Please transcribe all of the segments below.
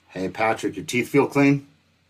Hey, Patrick, your teeth feel clean?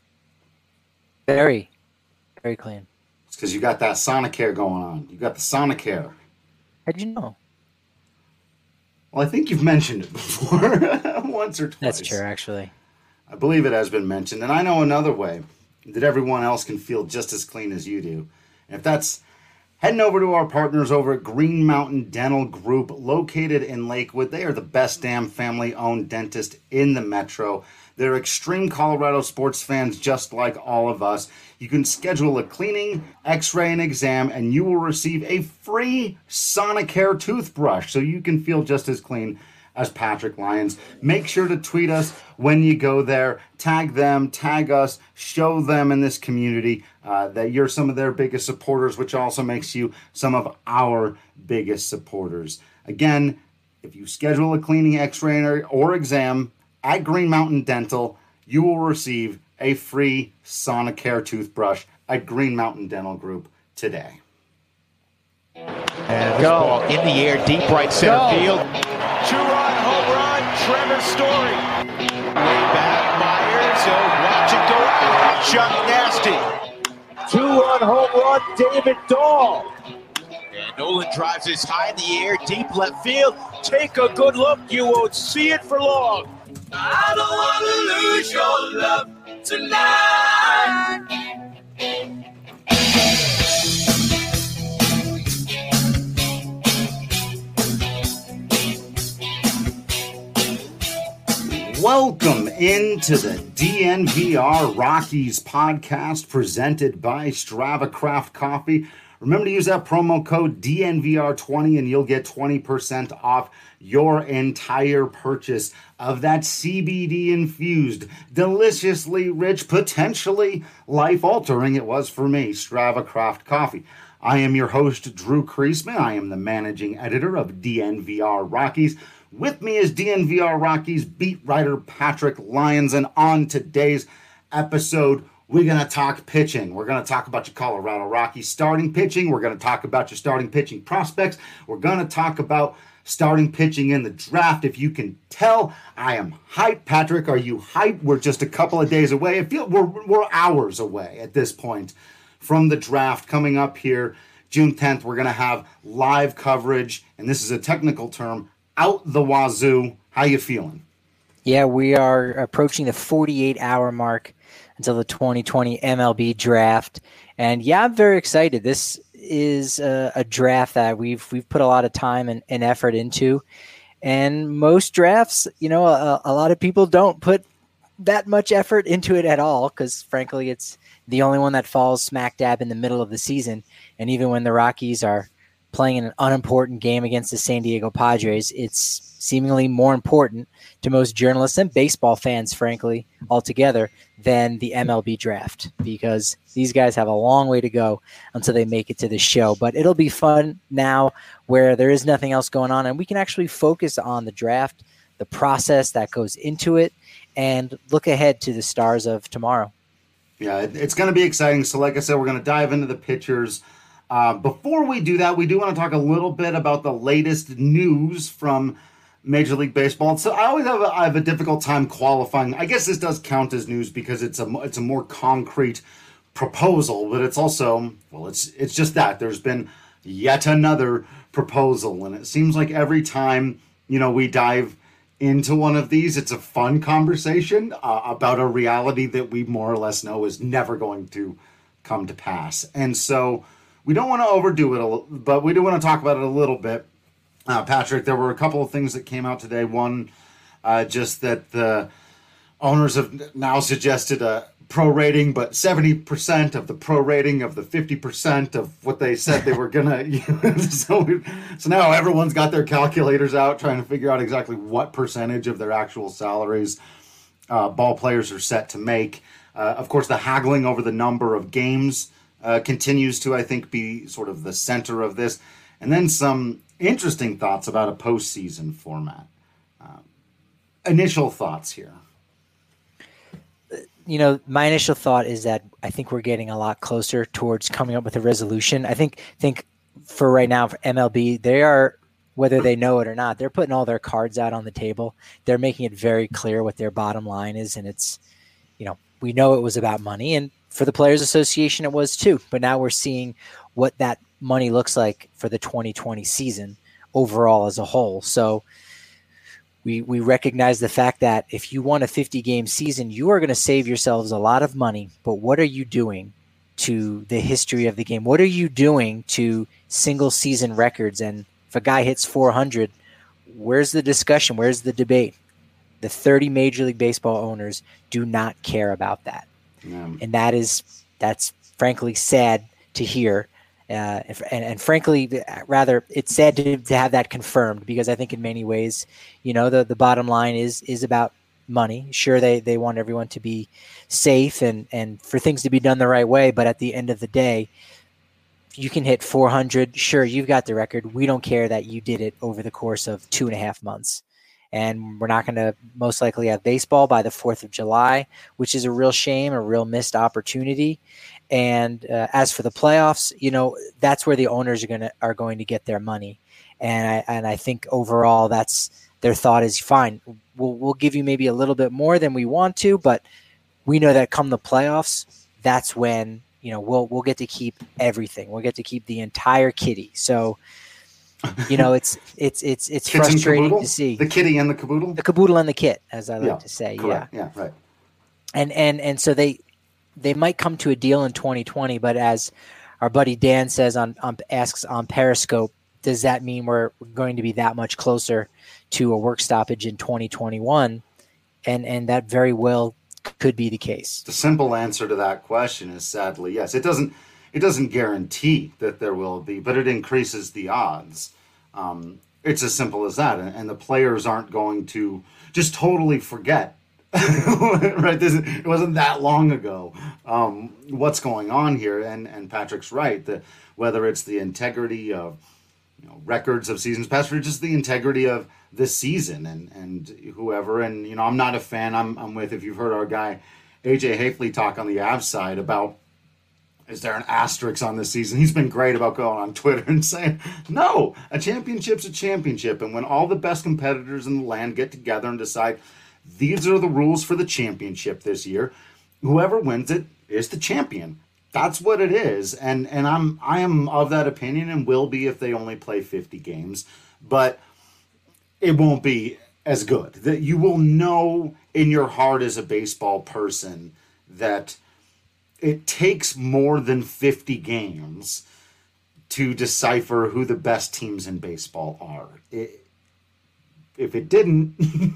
Very, very clean. It's because you got that Sonicare going on. You got the Sonicare. How'd you know? Well, I think you've mentioned it before, once or twice. That's true, actually. I believe it has been mentioned. And I know another way that everyone else can feel just as clean as you do. And if that's heading over to our partners over at Green Mountain Dental Group, located in Lakewood. They are the best damn family-owned dentist in the metro. They're extreme Colorado sports fans just like all of us. You can schedule a cleaning, x-ray, and exam, and you will receive a free Sonicare toothbrush so you can feel just as clean as Patrick Lyons. Make sure to tweet us when you go there. Tag them, tag us, show them in this community that you're some of their biggest supporters, which also makes you some of our biggest supporters. Again, if you schedule a cleaning, x-ray, or exam at Green Mountain Dental, you will receive a free Sonicare toothbrush at Green Mountain Dental Group today. And this ball in the air, deep right center field. Two-run home run, Trevor Story. Way back, Myers, watch it go out. Chuck Nasty. Two-run home run, David Dahl. And Nolan drives this high in the air, deep left field. Take a good look, you won't see it for long. I don't want to lose your love tonight. Welcome into the DNVR Rockies podcast presented by Strava Craft Coffee. Remember to use that promo code DNVR20 and you'll get 20% off your entire purchase of that CBD-infused, deliciously rich, potentially life-altering, it was for me, Strava Craft Coffee. I am your host, Drew Kreisman. I am the managing editor of DNVR Rockies. With me is DNVR Rockies beat writer Patrick Lyons, and on today's episode, we're going to talk pitching. We're going to talk about your Colorado Rockies starting pitching. We're going to talk about your starting pitching prospects. We're going to talk about starting pitching in the draft. If you can tell, I am hyped. Patrick, are you hyped? We're just a couple of days away. I feel we're hours away at this point from the draft coming up here. June 10th, we're going to have live coverage, and this is a technical term, out the wazoo. How you feeling? Yeah, we are approaching the 48-hour mark until the 2020 MLB draft. And yeah, I'm very excited. This is a draft that we've put a lot of time and effort into. And most drafts, a lot of people don't put that much effort into it at all because, frankly, it's the only one that falls smack dab in the middle of the season. And even when the Rockies are playing in an unimportant game against the San Diego Padres, it's seemingly more important to most journalists and baseball fans, frankly, altogether, than the MLB draft, because these guys have a long way to go until they make it to the show. But it'll be fun now where there is nothing else going on, and we can actually focus on the draft, the process that goes into it, and look ahead to the stars of tomorrow. Yeah, it's going to be exciting. So like I said, we're going to dive into the pitchers. Before we do that, we do want to talk a little bit about the latest news from Major League Baseball. So I have a difficult time qualifying. I guess this does count as news because it's a more concrete proposal, but it's also, it's just that there's been yet another proposal, and it seems like every time we dive into one of these, it's a fun conversation about a reality that we more or less know is never going to come to pass. And so we don't want to overdo it, but we do want to talk about it a little bit. Patrick, there were a couple of things that came out today. One, just that the owners have now suggested a prorating, but 70% of the prorating of the 50% of what they said they were going to use. So now everyone's got their calculators out trying to figure out exactly what percentage of their actual salaries ball players are set to make. Of course, the haggling over the number of games continues to, I think, be sort of the center of this. And then some interesting thoughts about a postseason format. Initial thoughts here. My initial thought is that I think we're getting a lot closer towards coming up with a resolution. I think for right now, for MLB, they are whether they know it or not, they're putting all their cards out on the table. They're making it very clear what their bottom line is. And it's, we know it was about money, and for the Players Association, it was too. But now we're seeing what that money looks like for the 2020 season overall as a whole. So we recognize the fact that if you want a 50-game season, you are going to save yourselves a lot of money. But what are you doing to the history of the game? What are you doing to single season records? And if a guy hits 400, where's the discussion? Where's the debate? The 30 Major League Baseball owners do not care about that. And that's frankly sad to hear. And frankly, rather, it's sad to have that confirmed, because I think in many ways, the bottom line is about money. Sure, they want everyone to be safe and for things to be done the right way. But at the end of the day, you can hit 400. Sure, you've got the record. We don't care that you did it over the course of 2.5 months. And we're not going to most likely have baseball by the 4th of July, which is a real shame, a real missed opportunity. And as for the playoffs, that's where the owners are going to get their money. And I think overall, that's their thought is fine. We'll give you maybe a little bit more than we want to, but we know that come the playoffs, that's when we'll get to keep everything. We'll get to keep the entire kitty. So. It's frustrating to see the kitty and the caboodle and the kit, as I like to say. Correct. Yeah, right. And so they might come to a deal in 2020, but as our buddy Dan says asks on Periscope, does that mean we're going to be that much closer to a work stoppage in 2021? And that very well could be the case. The simple answer to that question is sadly yes. It doesn't guarantee that there will be, but it increases the odds. It's as simple as that. And the players aren't going to just totally forget, right? It wasn't that long ago what's going on here. And Patrick's right, that whether it's the integrity of records of seasons past, or just the integrity of this season and whoever. And, I'm not a fan. I'm with, if you've heard our guy, AJ Hafley, talk on the Avs side about, is there an asterisk on this season? He's been great about going on Twitter and saying, no, a championship's a championship. And when all the best competitors in the land get together and decide these are the rules for the championship this year, whoever wins it is the champion. That's what it is. And I am of that opinion, and will be if they only play 50 games. But it won't be as good. That you will know in your heart as a baseball person that it takes more than 50 games to decipher who the best teams in baseball are. If it didn't,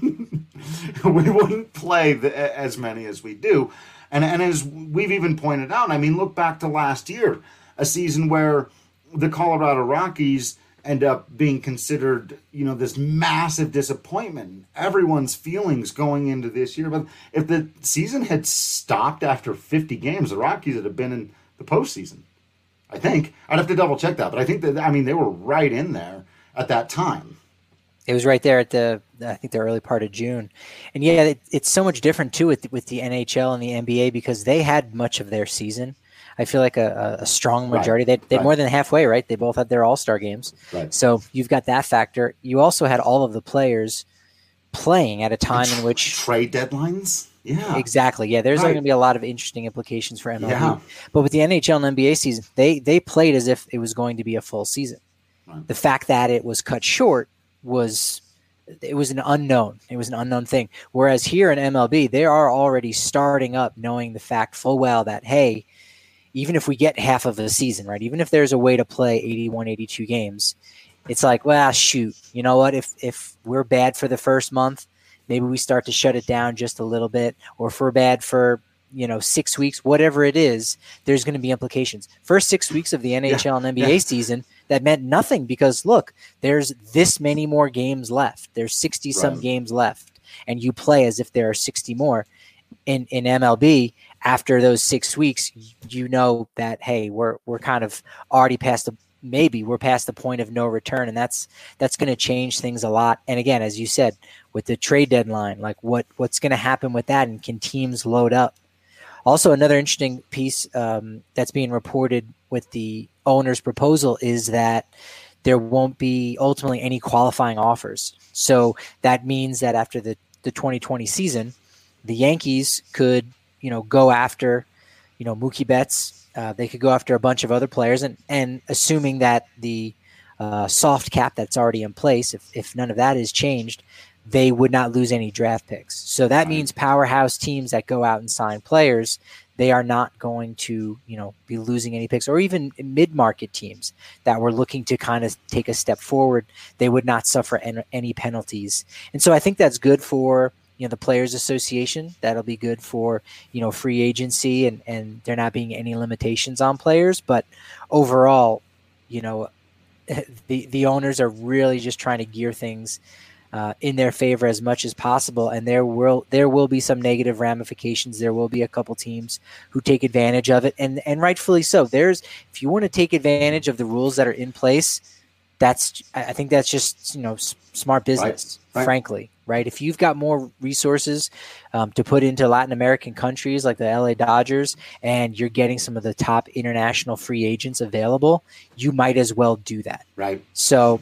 we wouldn't play as many as we do. And as we've even pointed out, look back to last year, a season where the Colorado Rockies end up being considered, this massive disappointment. Everyone's feelings going into this year. But if the season had stopped after 50 games, the Rockies would have been in the postseason. I think. I'd have to double check that. But I think that, they were right in there at that time. It was right there at the early part of June. And yeah, it's so much different too with the NHL and the NBA, because they had much of their season. I feel like a strong majority. Right. They're more than halfway, right? They both had their all-star games. Right. So you've got that factor. You also had all of the players playing at a time in which trade deadlines. Yeah, exactly. Yeah, there's going to be a lot of interesting implications for MLB. Yeah. But with the NHL and NBA season, they played as if it was going to be a full season. Right. The fact that it was cut short was an unknown. It was an unknown thing. Whereas here in MLB, they are already starting up knowing the fact full well that, hey, even if we get half of the season, right, even if there's a way to play 81, 82 games, it's like, well, shoot, you know what? If we're bad for the first month, maybe we start to shut it down just a little bit, or if we're bad for, 6 weeks, whatever it is, there's going to be implications. First 6 weeks of the NHL and NBA season, that meant nothing, because look, there's this many more games left. There's 60 some games left, and you play as if there are 60 more. In MLB, after those 6 weeks, that, hey, we're kind of already past we're past the point of no return, and that's going to change things a lot. And again, as you said, with the trade deadline, like what's going to happen with that, and can teams load up? Also, another interesting piece that's being reported with the owner's proposal is that there won't be ultimately any qualifying offers. So that means that after the 2020 season, the Yankees could, go after, Mookie Betts. They could go after a bunch of other players, and assuming that the soft cap that's already in place, if none of that is changed, they would not lose any draft picks. So that means powerhouse teams that go out and sign players, they are not going to, be losing any picks, or even mid-market teams that were looking to kind of take a step forward. They would not suffer any penalties. And so I think that's good for, the Players Association. That'll be good for, free agency and there not being any limitations on players. But overall, the owners are really just trying to gear things in their favor as much as possible, and there will be some negative ramifications. There will be a couple teams who take advantage of it, and rightfully so. If you want to take advantage of the rules that are in place, I think that's just smart business, right. Frankly, right? If you've got more resources to put into Latin American countries like the LA Dodgers, and you're getting some of the top international free agents available, you might as well do that, right? So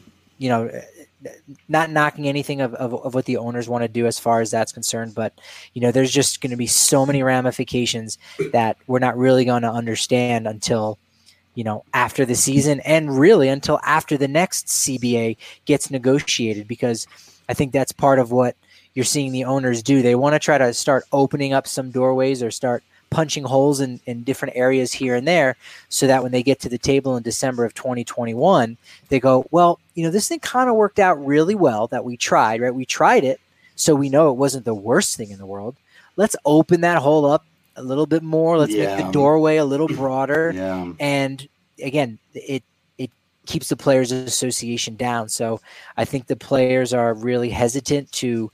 not knocking anything of what the owners want to do as far as that's concerned, but there's just going to be so many ramifications that we're not really going to understand until after the season, and really until after the next CBA gets negotiated, because I think that's part of what you're seeing the owners do. They want to try to start opening up some doorways or start punching holes in different areas here and there, so that when they get to the table in December of 2021, they go, well, this thing kind of worked out really well that we tried, right? We tried it, so we know it wasn't the worst thing in the world. Let's open that hole up a little bit more. Let's make the doorway a little broader. Yeah. And again, it keeps the Players Association down. So I think the players are really hesitant to,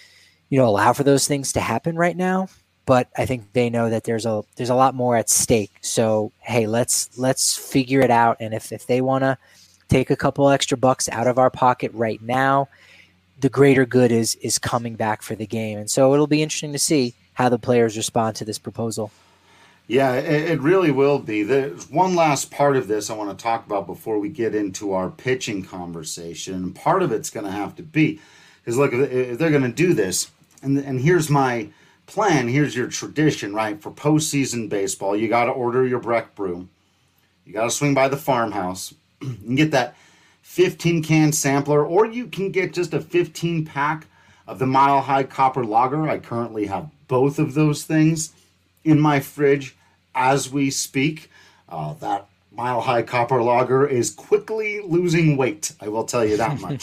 allow for those things to happen right now. But I think they know that there's a lot more at stake. So, hey, let's figure it out. And if they want to take a couple extra bucks out of our pocket right now, the greater good is coming back for the game. And so it'll be interesting to see how the players respond to this proposal. Yeah, it really will be. There's one last part of this I want to talk about before we get into our pitching conversation. Part of it's going to have to be, because look, if they're going to do this, and here's my plan, here's your tradition, right? For postseason baseball, you got to order your Breck brew. You got to swing by the farmhouse and get that 15-can sampler, or you can get just a 15-pack of the Mile High Copper Lager. I currently have both of those things in my fridge as we speak. That Mile High Copper Lager is quickly losing weight, I will tell you that much.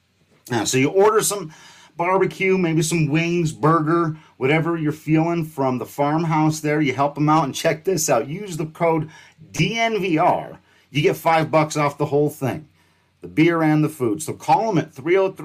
So you order some barbecue, maybe some wings, burger, whatever you're feeling from the farmhouse there. You help them out, and check this out. Use the code DNVR. You get $5 off the whole thing, the beer and the food. So call them at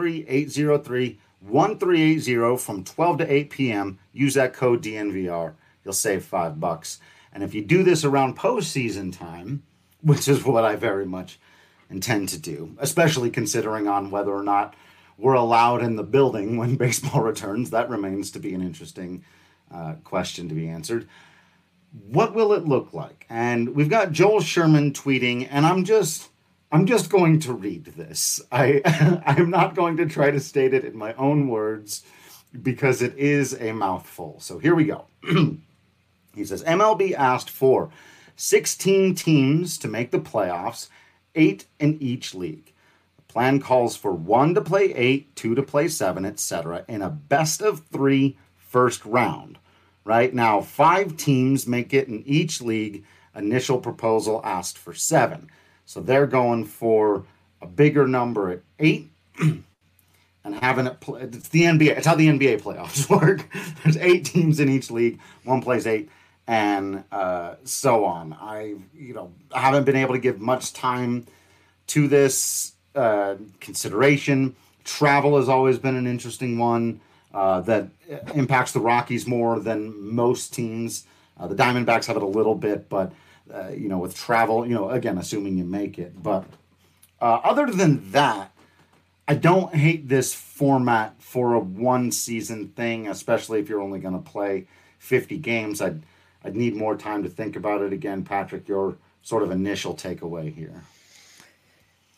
303-803-1380 from 12 to 8 p.m. Use that code DNVR. You'll save $5. And if you do this around postseason time, which is what I very much intend to do, especially considering on whether or not we're allowed in the building when baseball returns, that remains to be an interesting question to be answered. What will it look like? And we've got Joel Sherman tweeting, and I'm just going to read this. I'm not going to try to state it in my own words because it is a mouthful. So here we go. He says, MLB asked for 16 teams to make the playoffs, 8 in each league. The plan calls for 1 to play 8, 2 to play 7, etc. in a best-of-3 first round. Right now, 5 teams make it in each league. Initial proposal asked for 7. So they're going for a bigger number at 8 and having it play. It's the NBA. It's how the NBA playoffs work. There's 8 teams in each league. One plays 8, and so on. I haven't been able to give much time to this consideration. Travel has always been an interesting one that impacts the Rockies more than most teams. The Diamondbacks have it a little bit, but with travel, again, assuming you make it. But other than that, I don't hate this format for a one-season thing, especially if you're only going to play 50 games. I'd need more time to think about it. Again, Patrick, your sort of initial takeaway here.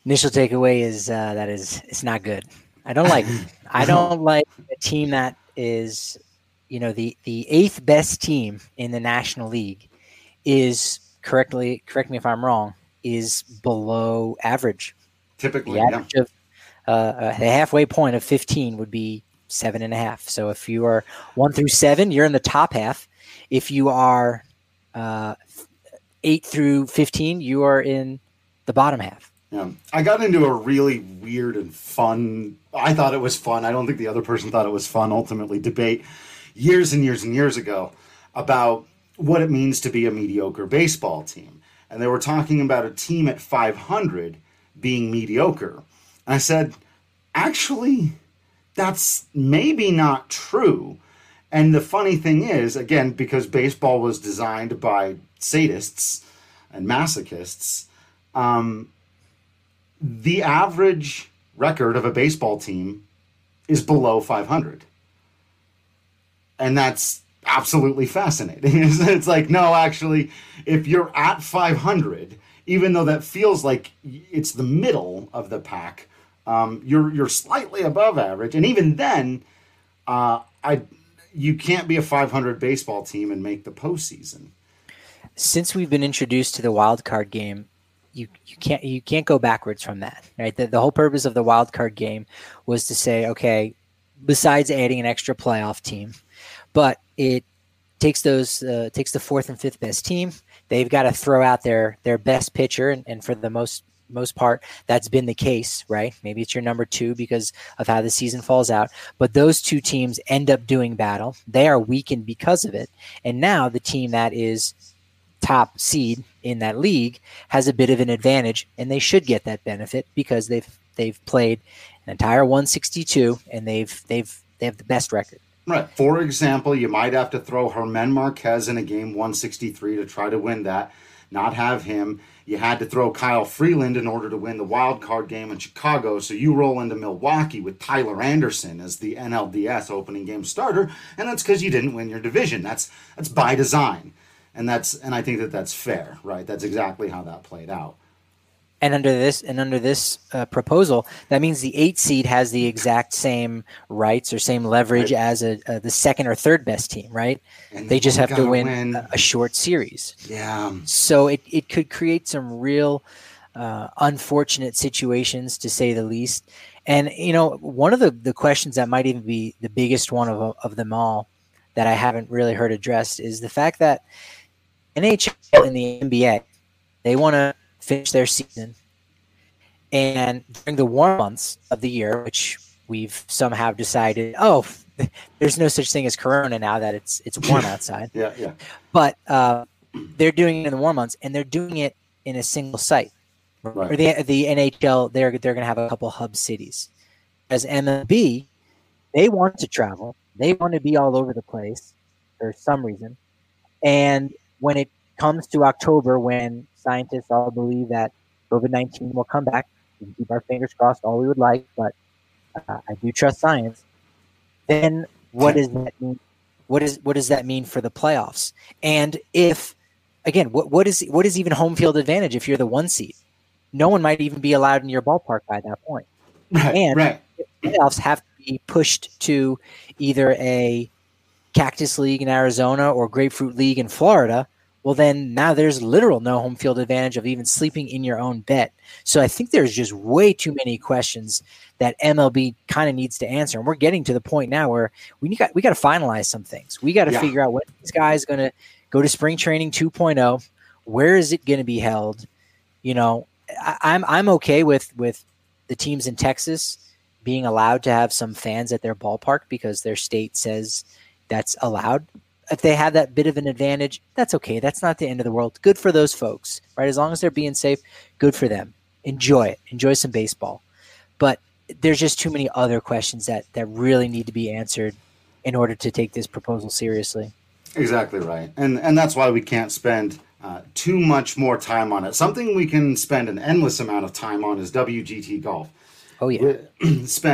Initial takeaway is that it's not good. I don't like I don't like a team that is, the eighth best team in the National League is correct me if I'm wrong, is below average. Typically, the average of the halfway point of 15 would be 7.5. So if you are 1 through 7, you're in the top half. If you are 8 through 15, you are in the bottom half. Yeah. I got into a really weird and fun, I thought it was fun, I don't think the other person thought it was fun, ultimately, debate years and years and years ago about what it means to be a mediocre baseball team. And they were talking about a team at 500 being mediocre. And I said, actually, that's maybe not true. And the funny thing is, again, because baseball was designed by sadists and masochists, the average record of a baseball team is below 500. And that's absolutely fascinating. It's like, no, actually, if you're at 500, even though that feels like it's the middle of the pack, you're slightly above average. And even then, you can't be a 500 baseball team and make the postseason. Since we've been introduced to the wild card game, you can't go backwards from that, right? The whole purpose of the wild card game was to say, okay, besides adding an extra playoff team, but it takes takes the fourth and fifth best team. They've got to throw out their best pitcher, and for the most part, that's been the case, right? Maybe it's your number 2 because of how the season falls out, but those two teams end up doing battle. They are weakened because of it, and now the team that is top seed in that league has a bit of an advantage, and they should get that benefit because they've played an entire 162 and they have the best record. Right. For example, you might have to throw Germán Marquez in a game 163 to try to win that, not have him. You had to throw Kyle Freeland in order to win the wild card game in Chicago, so you roll into Milwaukee with Tyler Anderson as the NLDS opening game starter, and that's because you didn't win your division. That's by design. And I think that's fair, right? That's exactly how that played out. And under this proposal, that means the 8 seed has the exact same rights or same leverage as the second or third best team, right? And they just have to win a short series. Yeah. So it could create some real unfortunate situations, to say the least. And one of the questions that might even be the biggest one of them all that I haven't really heard addressed is the fact that NHL and the NBA, they want to finish their season, and during the warm months of the year, which we've somehow decided, there's no such thing as Corona now that it's warm outside. Yeah. But they're doing it in the warm months, and they're doing it in a single site. Right. Or the NHL, they're going to have a couple hub cities. As MLB, they want to travel, they want to be all over the place for some reason, and when it comes to October, when scientists all believe that COVID-19 will come back, we can keep our fingers crossed all we would like, but I do trust science. Then what does that mean? What does that mean for the playoffs? And if, again, what is even home field advantage if you're the 1 seed? No one might even be allowed in your ballpark by that point. Right. If playoffs have to be pushed to either a Cactus League in Arizona or Grapefruit League in Florida, well, then now there's literal no home field advantage of even sleeping in your own bed. So I think there's just way too many questions that MLB kind of needs to answer. And we're getting to the point now where we got to finalize some things. We got to figure out when this guy is going to go to spring training 2.0. Where is it going to be held? I'm okay with the teams in Texas being allowed to have some fans at their ballpark because their state says that's allowed. If they have that bit of an advantage, that's okay. That's not the end of the world. Good for those folks, right? As long as they're being safe, good for them. Enjoy it. Enjoy some baseball. But there's just too many other questions that really need to be answered in order to take this proposal seriously. Exactly right. And that's why we can't spend too much more time on it. Something we can spend an endless amount of time on is WGT Golf. Oh, yeah.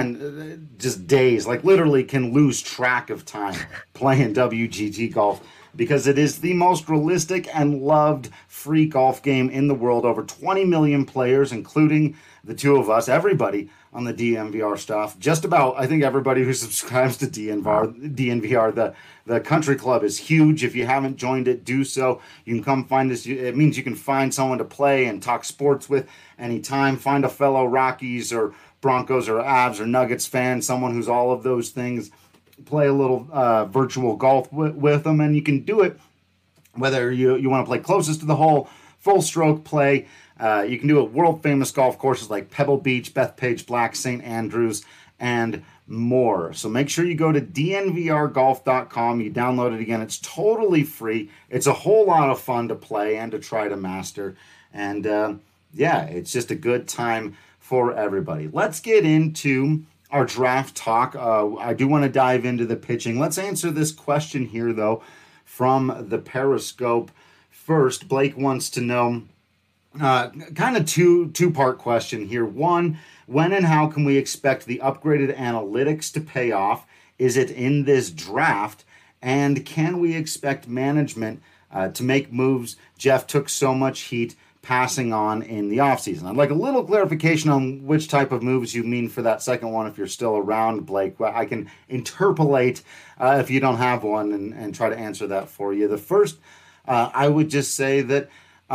Spend just days, like literally can lose track of time playing WGT Golf. because it is the most realistic and loved free golf game in the world. Over 20 million players, including the two of us, everybody on the DNVR stuff. Just about, I think, everybody who subscribes to DNVR. The country club is huge. If you haven't joined it, do so. You can come find us. It means you can find someone to play and talk sports with anytime. Find a fellow Rockies or Broncos or Avs or Nuggets fan, someone who's all of those things. Play a little virtual golf with them, and you can do it whether you want to play closest to the hole, full stroke play. You can do it world famous golf courses like Pebble Beach, Bethpage Black, St. Andrews, and more. So make sure you go to dnvrgolf.com. You download it again. It's totally free. It's a whole lot of fun to play and to try to master. And it's just a good time for everybody. Let's get into our draft talk. I do want to dive into the pitching. Let's answer this question here, though, from the Periscope. First, Blake wants to know kind of two-part question here. One, when and how can we expect the upgraded analytics to pay off? Is it in this draft? And can we expect management to make moves Jeff took so much heat passing on in the offseason? I'd like a little clarification on which type of moves you mean for that second one if you're still around, Blake. I can interpolate if you don't have one and try to answer that for you. The first, I would just say that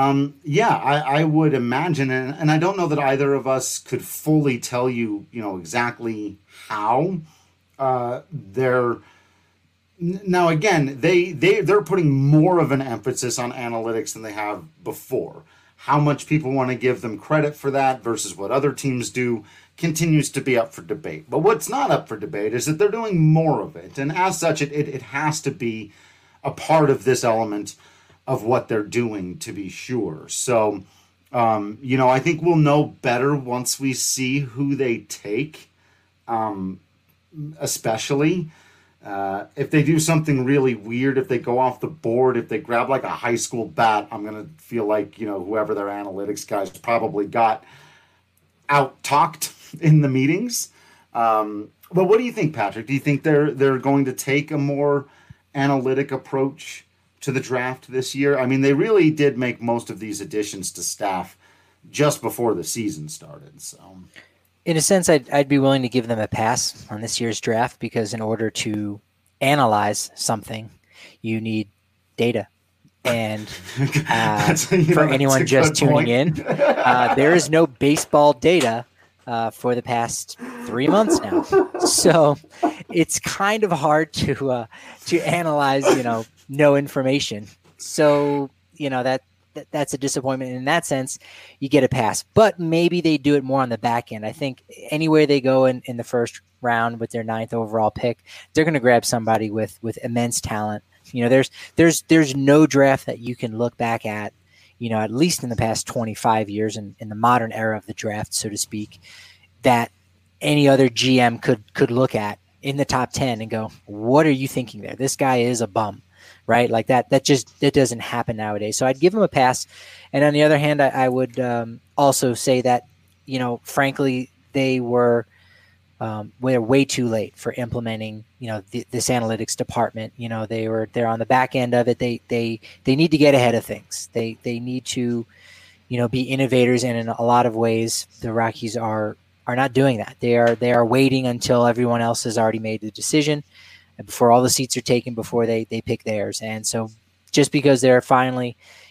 I would imagine, and I don't know that either of us could fully tell you, exactly how they're. Now again, they're putting more of an emphasis on analytics than they have before. How much people want to give them credit for that versus what other teams do continues to be up for debate. But what's not up for debate is that they're doing more of it, and as such, it has to be a part of this element of what they're doing, to be sure. So, I think we'll know better once we see who they take, especially if they do something really weird, if they go off the board, if they grab like a high school bat, I'm going to feel like, whoever their analytics guys probably got out-talked in the meetings. But what do you think, Patrick? Do you think they're going to take a more analytic approach to the draft this year? I mean, they really did make most of these additions to staff just before the season started. So, in a sense, I'd be willing to give them a pass on this year's draft because in order to analyze something, you need data. And for anyone just tuning in, there is no baseball data for the past 3 months now. So it's kind of hard to analyze, no information. So, that's a disappointment. In that sense, you get a pass. But maybe they do it more on the back end. I think anywhere they go in the first round with their 9th overall pick, they're going to grab somebody with immense talent. There's no draft that you can look back at, at least in the past 25 years in the modern era of the draft, so to speak, that any other GM could look at in the top 10 and go, what are you thinking there? This guy is a bum. Right? Like that doesn't happen nowadays. So I'd give him a pass. And on the other hand, I would also say that, frankly, they were way too late for implementing, this analytics department. They're on the back end of it. They need to get ahead of things. They need to, be innovators. And in a lot of ways, the Rockies are not doing that. They are waiting until everyone else has already made the decision, before all the seats are taken, before they pick theirs. And so just because they're finally,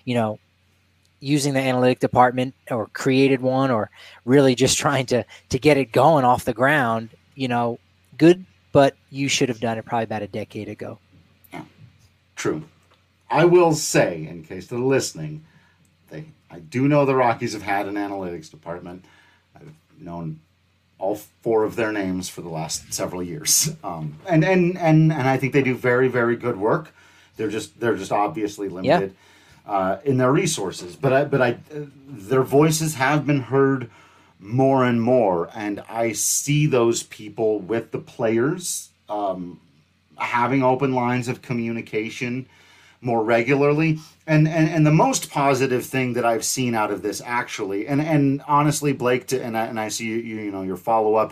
using the analytic department or created one or really just trying to get it going off the ground, good, but you should have done it probably about a decade ago. Yeah, true. I will say, in case they're listening, I do know the Rockies have had an analytics department. I've known all 4 of their names for the last several years. And I think they do very, very good work. They're just obviously limited in their resources. But their voices have been heard more and more. And I see those people with the players having open lines of communication more regularly. And the most positive thing that I've seen out of this, actually, and honestly, Blake, and I see your follow-up,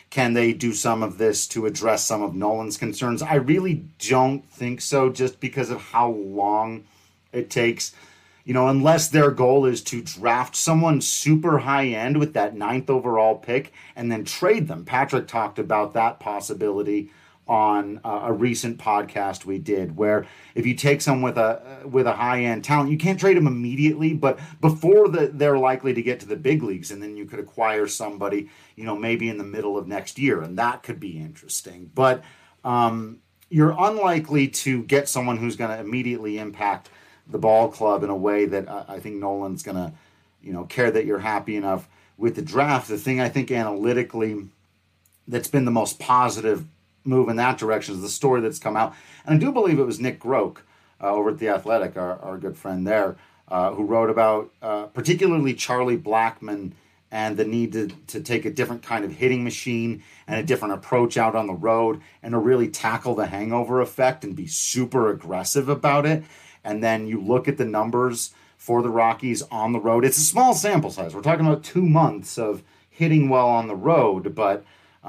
Can they do some of this to address some of Nolan's concerns? I really don't think so, just because of how long it takes. Unless their goal is to draft someone super high end with that 9th overall pick and then trade them. Patrick talked about that possibility on a recent podcast we did, where if you take someone with a high end talent, you can't trade them immediately, but before they're likely to get to the big leagues, and then you could acquire somebody, maybe in the middle of next year, and that could be interesting. But you're unlikely to get someone who's going to immediately impact the ball club in a way that I think Nolan's going to, care that you're happy enough with the draft. The thing I think analytically that's been the most positive move in that direction is the story that's come out. And I do believe it was Nick Groke over at The Athletic, our good friend there, who wrote about particularly Charlie Blackmon and the need to take a different kind of hitting machine and a different approach out on the road and to really tackle the hangover effect and be super aggressive about it. And then you look at the numbers for the Rockies on the road. It's a small sample size. We're talking about 2 months of hitting well on the road, but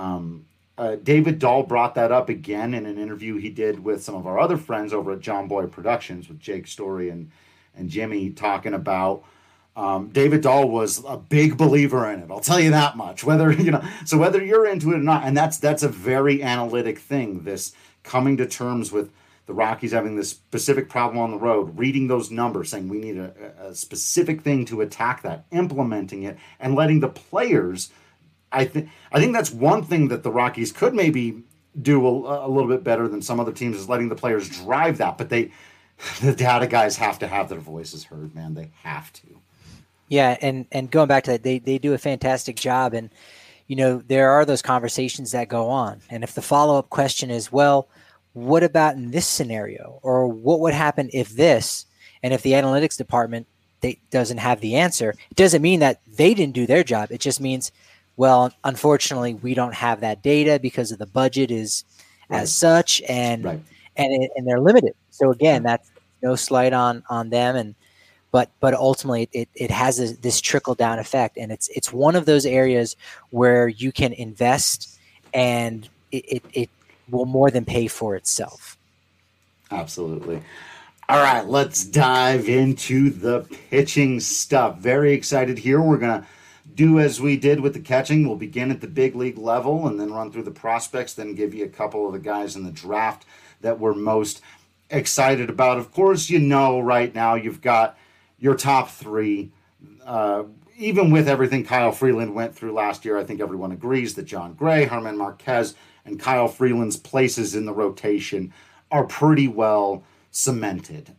David Dahl brought that up again in an interview he did with some of our other friends over at John Boy Productions with Jake Story and Jimmy, talking about David Dahl was a big believer in it. I'll tell you that much. Whether you're into it or not, and that's a very analytic thing. This coming to terms with the Rockies having this specific problem on the road, reading those numbers, saying we need a specific thing to attack that, implementing it, and letting the players. I think that's one thing that the Rockies could maybe do a little bit better than some other teams, is letting the players drive that. But the data guys have to have their voices heard, man. They have to. Yeah, and going back to that, they do a fantastic job. And, there are those conversations that go on. And if the follow-up question is, well, what about in this scenario? Or what would happen if this? And if the analytics department doesn't have the answer, it doesn't mean that they didn't do their job. It just means, well, unfortunately, we don't have that data because of the budget is as such, and they're limited. So again, that's no slight on them, but ultimately it has this trickle down effect, and it's one of those areas where you can invest, and it will more than pay for itself. Absolutely. All right, let's dive into the pitching stuff. Very excited here. We're gonna do as we did with the catching. We'll begin at the big league level and then run through the prospects, then give you a couple of the guys in the draft that we're most excited about. Of course, right now you've got your top 3. Even with everything Kyle Freeland went through last year, I think everyone agrees that John Gray, Germán Marquez, and Kyle Freeland's places in the rotation are pretty well cemented.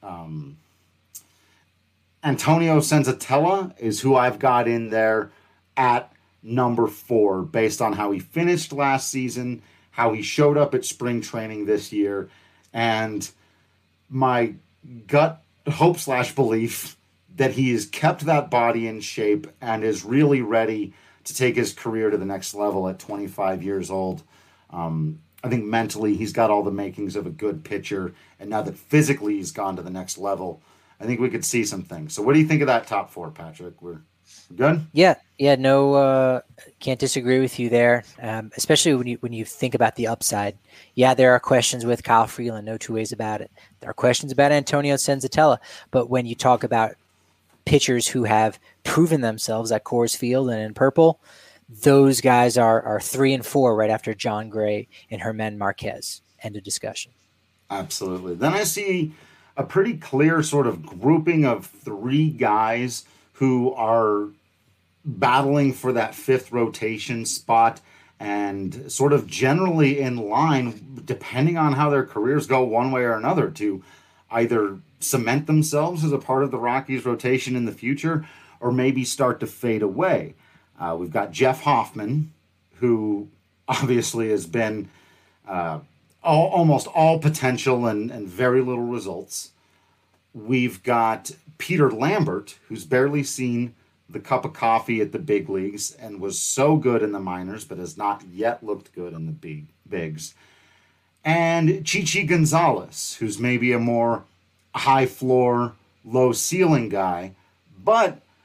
Antonio Senzatella is who I've got in there at number 4, based on how he finished last season, how he showed up at spring training this year, and my gut hope / belief that he has kept that body in shape and is really ready to take his career to the next level at 25 years old. I think mentally he's got all the makings of a good pitcher, and now that physically he's gone to the next level, I think we could see some things. So what do you think of that top 4, Patrick? We're good? Yeah, no, can't disagree with you there, especially when you think about the upside. Yeah, there are questions with Kyle Freeland, no two ways about it. There are questions about Antonio Senzatella, but when you talk about pitchers who have proven themselves at Coors Field and in purple, those guys are 3 and 4 right after John Gray and Germán Marquez. End of discussion. Absolutely. Then I see a pretty clear sort of grouping of 3 guys who are battling for that 5th rotation spot and sort of generally in line, depending on how their careers go one way or another, to either cement themselves as a part of the Rockies rotation in the future or maybe start to fade away. We've got Jeff Hoffman, who obviously has been almost all potential and very little results. We've got Peter Lambert, who's barely seen the cup of coffee at the big leagues and was so good in the minors, but has not yet looked good in the bigs. And Chichi Gonzalez, who's maybe a more high floor, low ceiling guy, but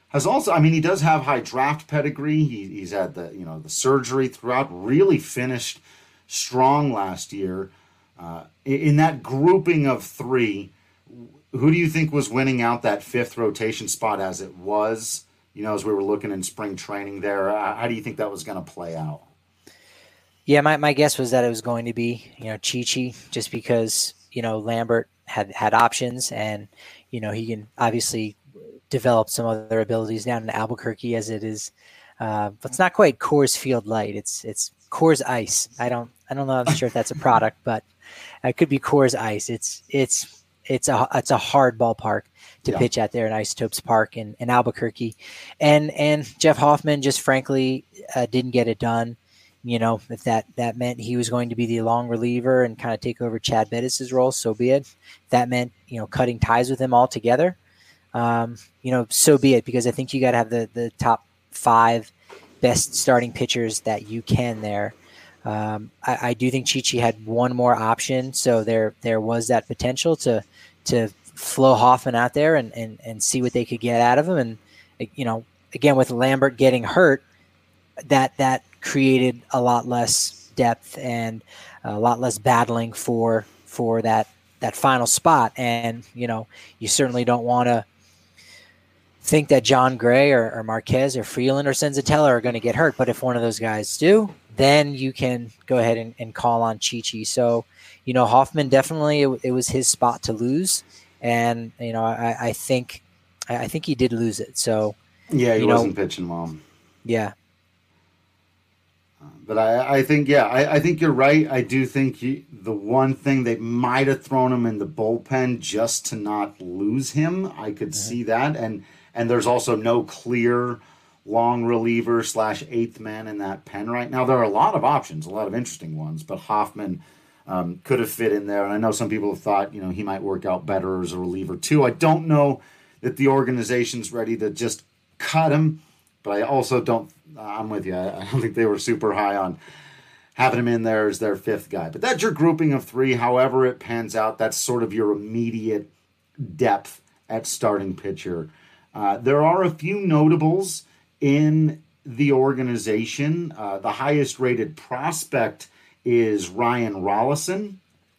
has also, I mean, he does have high draft pedigree. He's had the surgery throughout. Really finished strong last year. In that grouping of three, who do you think was winning out that fifth rotation spot as it was? As we were looking in spring training there, how do you think that was going to play out? Yeah, my guess was that it was going to be, Chi-Chi, just because, Lambert had options, and, he can obviously develop some other abilities down in Albuquerque as it is. But it's not quite Coors Field Light. It's Coors Ice. I don't know. I'm sure if that's a product, but it could be Coors Ice. It's a hard ballpark to pitch at there in Isotopes Park in Albuquerque, and Jeff Hoffman just frankly didn't get it done. If that meant he was going to be the long reliever and kind of take over Chad Bettis' role, so be it. If that meant cutting ties with him altogether, so be it. Because I think you got to have the top 5 best starting pitchers that you can there. I do think Chi-Chi had one more option, so there was that potential to flow Hoffman out there and see what they could get out of him. And again, with Lambert getting hurt, that created a lot less depth and a lot less battling for that final spot. And you certainly don't want to think that John Gray or Marquez or Freeland or Senzatella are going to get hurt. But if one of those guys do, then you can go ahead and call on Chi-Chi. So, Hoffman definitely, it was his spot to lose. And, I think he did lose it. So, yeah, he wasn't pitching well. Yeah. But I think, I think you're right. I do think the one thing they might have thrown him in the bullpen just to not lose him. I could see that. And there's also no clear long reliever / eighth man in that pen right now. There are a lot of options, a lot of interesting ones, but Hoffman could have fit in there. And I know some people have thought, he might work out better as a reliever too. I don't know that the organization's ready to just cut him, but I also don't, I'm with you. I don't think they were super high on having him in there as their 5th guy. But that's your grouping of 3. However it pans out, that's sort of your immediate depth at starting pitcher. There are a few notables in the organization. The highest rated prospect is Ryan Rollison,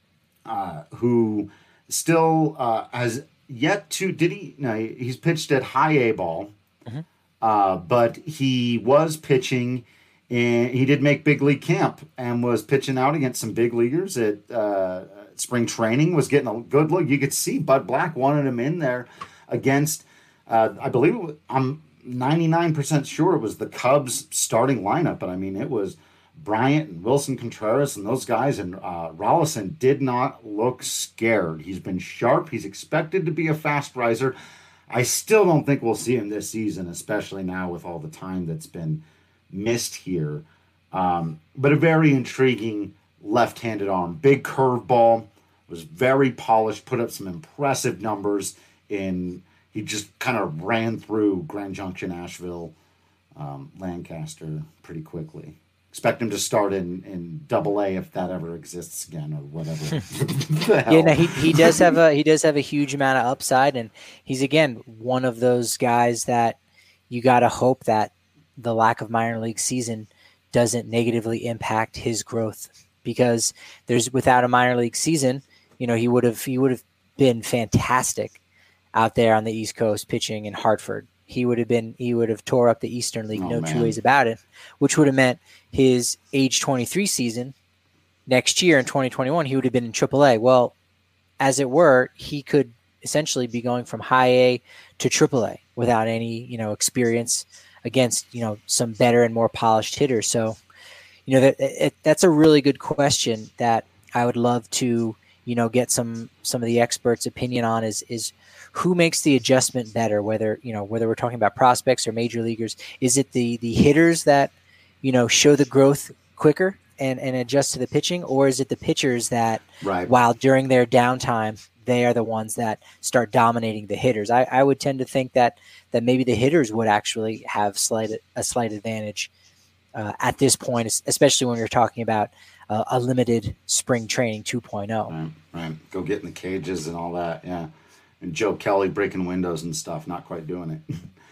who still has yet to, he's pitched at high A ball, but he was pitching, and he did make big league camp and was pitching out against some big leaguers at spring training, was getting a good look. You could see Bud Black wanted him in there against, I believe, I'm 99% sure it was the Cubs starting lineup, but I mean, it was Bryant and Wilson Contreras and those guys, and Rollison did not look scared. He's been sharp. He's expected to be a fast riser. I still don't think we'll see him this season, especially now with all the time that's been missed here. But a very intriguing left-handed arm. Big curveball, was very polished, put up some impressive numbers in. He just kind of ran through Grand Junction, Asheville, Lancaster pretty quickly. Expect him to start in Double-A if that ever exists again, or whatever. Yeah, no, he does have a huge amount of upside, and he's again one of those guys that you got to hope that the lack of minor league season doesn't negatively impact his growth, because without a minor league season, he would have been fantastic out there on the East Coast pitching in Hartford. He would have tore up the Eastern League, two ways about it, which would have meant his age 23 season next year in 2021, he would have been in AAA. Well, as it were, he could essentially be going from high A to AAA without any, experience against, some better and more polished hitters. So, that's a really good question that I would love to, get some of the experts' opinion on is who makes the adjustment better, whether we're talking about prospects or major leaguers. Is it the hitters that, show the growth quicker and adjust to the pitching, or is it the pitchers that, while during their downtime, they are the ones that start dominating the hitters? I would tend to think that maybe the hitters would actually have a slight advantage at this point, especially when you're talking about a limited spring training 2.0. Right. Go get in the cages and all that. Yeah. And Joe Kelly breaking windows and stuff, not quite doing it.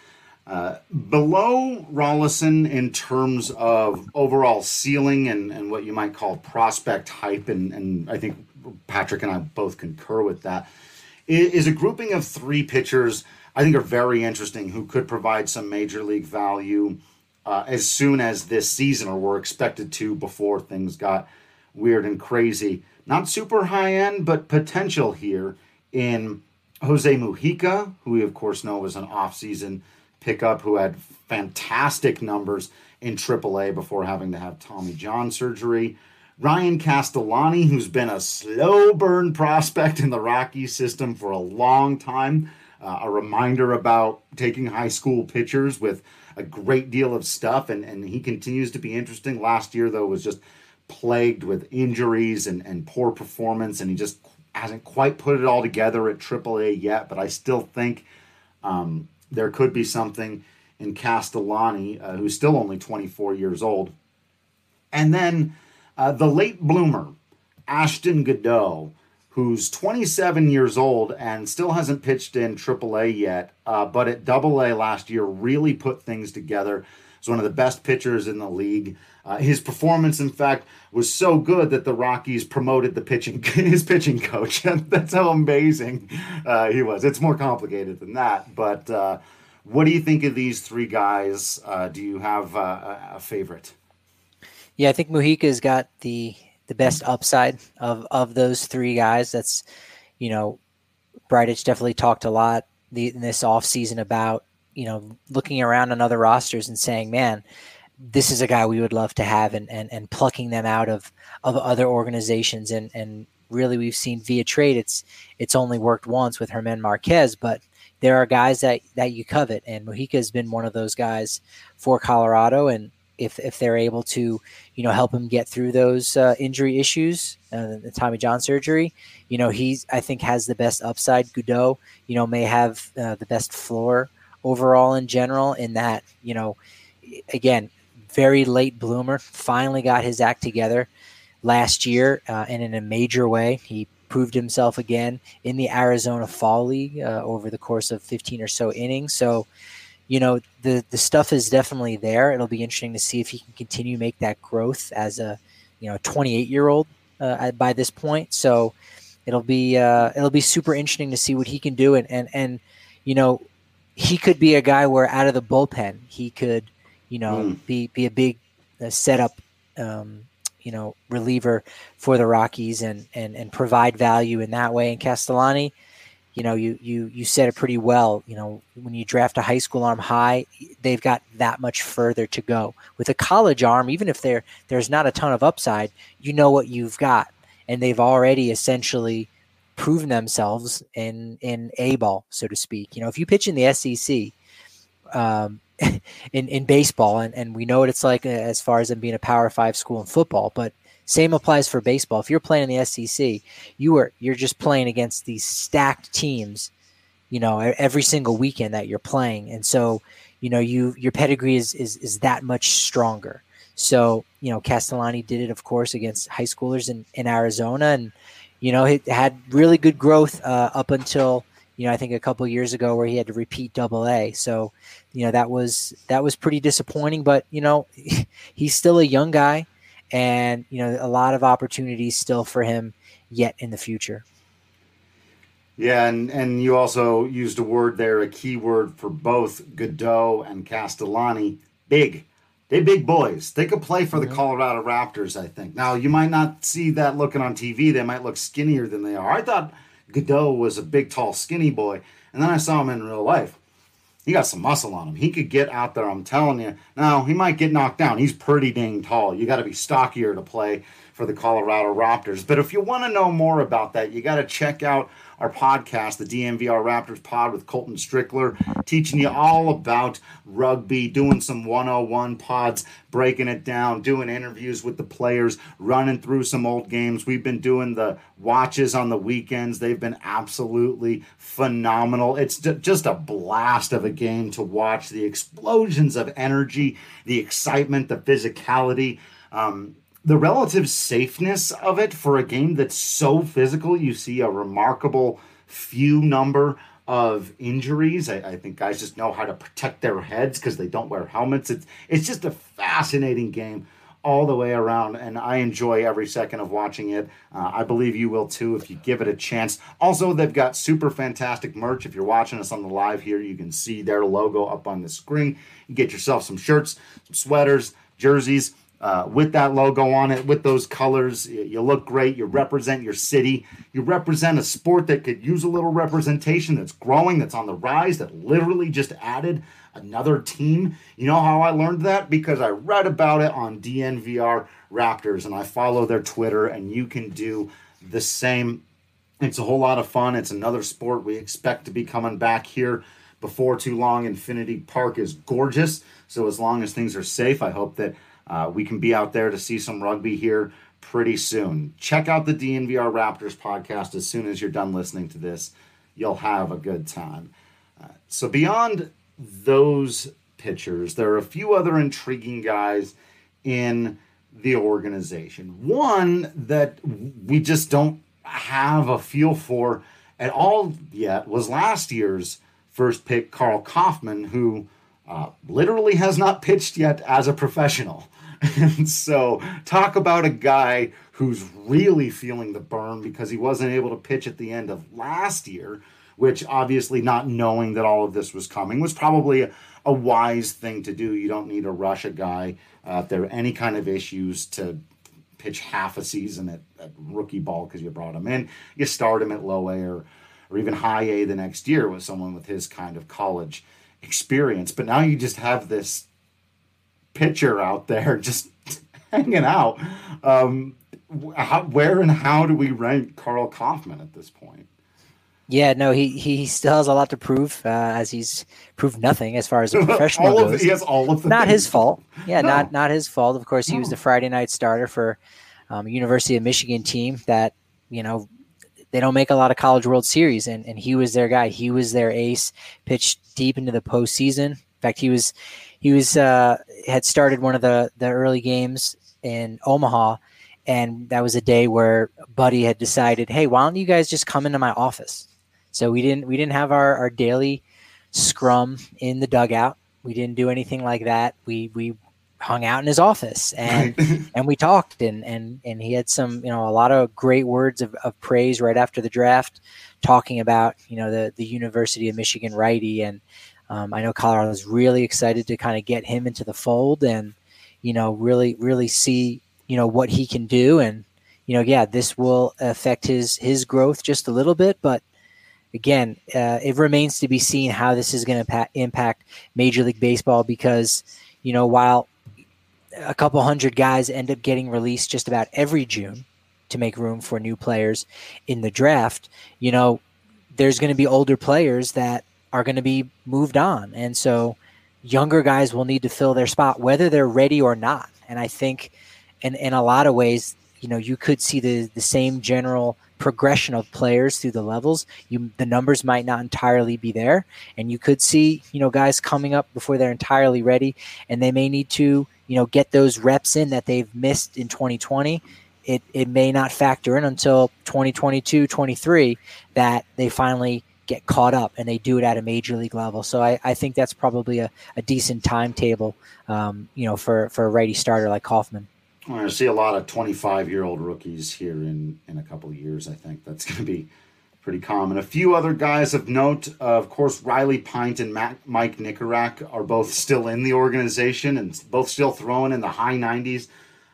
Below Rolison in terms of overall ceiling and what you might call prospect hype, and I think Patrick and I both concur with that, is a grouping of three pitchers I think are very interesting who could provide some major league value as soon as this season, or were expected to before things got weird and crazy. Not super high end, but potential here in Jose Mujica, who we of course know was an offseason pickup who had fantastic numbers in AAA before having to have Tommy John surgery. Ryan Castellani, who's been a slow burn prospect in the Rockies system for a long time. A reminder about taking high school pitchers with a great deal of stuff, and he continues to be interesting. Last year, though, was just plagued with injuries and poor performance, and he just hasn't quite put it all together at AAA yet, but I still think there could be something in Castellani, who's still only 24 years old. And then the late bloomer, Ashton Goudeau, who's 27 years old and still hasn't pitched in AAA yet, but at AA last year really put things together. He's one of the best pitchers in the league. His performance, in fact, was so good that the Rockies promoted his pitching coach. That's how amazing he was. It's more complicated than that. But what do you think of these three guys? Do you have a favorite? Yeah, I think Mujica's got the best upside of those three guys. That's, Bridich definitely talked a lot in this offseason about, looking around on other rosters and saying, man, this is a guy we would love to have, and plucking them out of other organizations. And really we've seen via trade, it's only worked once with Germán Marquez, but there are guys that you covet, and Mujica has been one of those guys for Colorado. And if they're able to, help him get through those injury issues, the Tommy John surgery, I think has the best upside. Goudeau, may have the best floor overall in general, in that, again, very late bloomer, finally got his act together last year, and in a major way. He proved himself again in the Arizona Fall League over the course of 15 or so innings. So, the stuff is definitely there. It'll be interesting to see if he can continue to make that growth as a 28-year-old by this point. So it'll be super interesting to see what he can do. And he could be a guy where out of the bullpen he could be a big setup reliever for the Rockies and provide value in that way. And Castellani, you said it pretty well. When you draft a high school arm high, they've got that much further to go. With a college arm, even if there's not a ton of upside, what you've got, and they've already essentially proven themselves in A-ball, so to speak. If you pitch in the SEC in baseball, and we know what it's like as far as them being a Power 5 school in football, but same applies for baseball. If you're playing in the SEC, you're just playing against these stacked teams, every single weekend that you're playing. And so, your pedigree is that much stronger. So, Castellani did it, of course, against high schoolers in Arizona, and, it had really good growth up until, I think a couple of years ago where he had to repeat AA. So, that was pretty disappointing, but, he's still a young guy. And, a lot of opportunities still for him yet in the future. Yeah, and you also used a word there, a key word for both Goudeau and Castellani. Big. They're big boys. They could play for the Colorado Raptors, I think. Now, you might not see that looking on TV. They might look skinnier than they are. I thought Goudeau was a big, tall, skinny boy, and then I saw him in real life. He got some muscle on him. He could get out there, I'm telling you. Now, he might get knocked down. He's pretty dang tall. You got to be stockier to play for the Colorado Raptors. But if you want to know more about that, you got to check out our podcast, the DNVR Raptors Pod with Colton Strickler, teaching you all about rugby, doing some 101 pods, breaking it down, doing interviews with the players, running through some old games. We've been doing the watches on the weekends. They've been absolutely phenomenal. It's just a blast of a game to watch. The explosions of energy, the excitement, the physicality, the relative safeness of it for a game that's so physical. You see a remarkable few number of injuries. I think guys just know how to protect their heads because they don't wear helmets. It's just a fascinating game all the way around, and I enjoy every second of watching it. I believe you will too if you give it a chance. Also, they've got super fantastic merch. If you're watching us on the live here, you can see their logo up on the screen. You get yourself some shirts, some sweaters, jerseys, with that logo on it, with those colors. You look great. You represent your city. You represent a sport that could use a little representation, that's growing, that's on the rise, that literally just added another team. You know how I learned that? Because I read about it on DNVR Raptors, and I follow their Twitter, and you can do the same. It's a whole lot of fun. It's another sport we expect to be coming back here before too long. Infinity Park is gorgeous, so as long as things are safe, I hope that we can be out there to see some rugby here pretty soon. Check out the DNVR Raptors podcast as soon as you're done listening to this. You'll have a good time. So beyond those pitchers, there are a few other intriguing guys in the organization. One that we just don't have a feel for at all yet was last year's first pick, Karl Kauffmann, who literally has not pitched yet as a professional. And so talk about a guy who's really feeling the burn because he wasn't able to pitch at the end of last year, which obviously not knowing that all of this was coming was probably a wise thing to do. You don't need to rush a guy if there are any kind of issues to pitch half a season at rookie ball because you brought him in. You start him at low A or even high A the next year with someone with his kind of college experience. But now you just have this pitcher out there just hanging out. Where and how do we rank Karl Kauffmann at this point? Yeah, no, he still has a lot to prove, as he's proved nothing as far as a professional goes. He has all of the not things. His fault. Yeah, No. not his fault. Of course, he was the Friday night starter for University of Michigan team that, you know, they don't make a lot of College World Series, and he was their guy. He was their ace, pitched deep into the postseason. In fact, he had started one of the early games in Omaha, and that was a day where Buddy had decided, hey, why don't you guys just come into my office? So we didn't have our daily scrum in the dugout. We didn't do anything like that. We hung out in his office and and we talked and he had some, you know, a lot of great words of praise right after the draft, talking about, you know, the University of Michigan righty. And I know Colorado was really excited to kind of get him into the fold and, you know, really see, you know, what he can do. And, you know, yeah, this will affect his growth just a little bit, but again, it remains to be seen how this is going to impact Major League Baseball because, you know, while a couple hundred guys end up getting released just about every June to make room for new players in the draft, you know, there's going to be older players that are going to be moved on. And so younger guys will need to fill their spot, whether they're ready or not. And I think in a lot of ways, you know, you could see the same general progression of players through the levels. The numbers might not entirely be there, and you could see, you know, guys coming up before they're entirely ready, and they may need to, you know, get those reps in that they've missed in 2020. It may not factor in until 2022, 23 that they finally get caught up and they do it at a major league level. So I think that's probably a decent timetable, you know, for a righty starter like Kauffmann. We're going to see a lot of 25-year-old rookies here in a couple of years. I think that's going to be pretty common. A few other guys of note, of course, Riley Pint and Mike Nikorak are both still in the organization and both still throwing in the high 90s.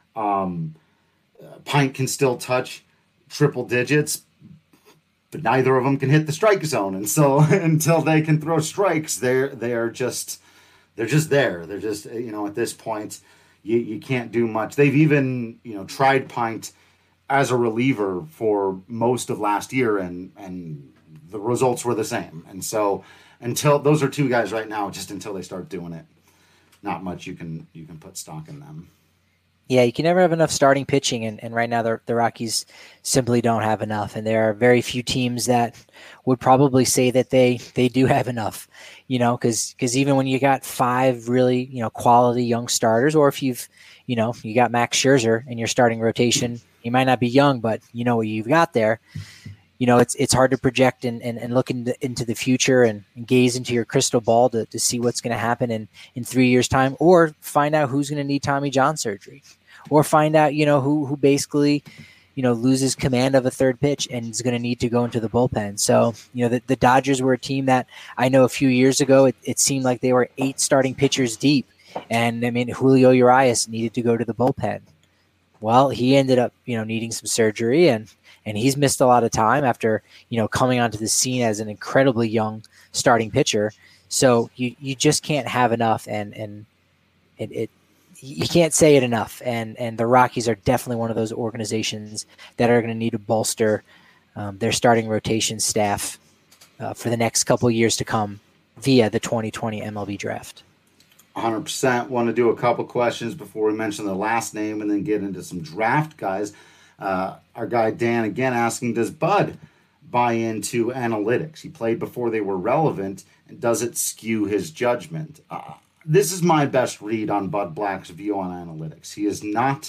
Pint can still touch triple digits, but neither of them can hit the strike zone. And so until they can throw strikes, they're just there. They're just, you know, at this point, you can't do much. They've even, you know, tried Pint as a reliever for most of last year, and the results were the same. And so until those are two guys right now, just until they start doing it, not much you can put stock in them. Yeah, you can never have enough starting pitching, and right now the Rockies simply don't have enough. And there are very few teams that would probably say that they do have enough, you know, because even when you got five really, you know, quality young starters, or if you got Max Scherzer in your starting rotation, you might not be young, but you know what you've got there. it's hard to project and look into the future and gaze into your crystal ball to see what's going to happen in 3 years' time, or find out who's going to need Tommy John surgery, or find out, who basically, loses command of a third pitch and is going to need to go into the bullpen. So, the Dodgers were a team that I know a few years ago, it seemed like they were 8 starting pitchers deep. And I mean, Julio Urias needed to go to the bullpen. Well, he ended up, needing some surgery, and he's missed a lot of time after, coming onto the scene as an incredibly young starting pitcher. So you just can't have enough, and you can't say it enough. And the Rockies are definitely one of those organizations that are going to need to bolster their starting rotation staff for the next couple of years to come via the 2020 MLB draft. 100%. Want to do a couple questions before we mention the last name and then get into some draft guys. Our guy Dan again asking, does Bud buy into analytics? He played before they were relevant, and does it skew his judgment? This is my best read on Bud Black's view on analytics. He is not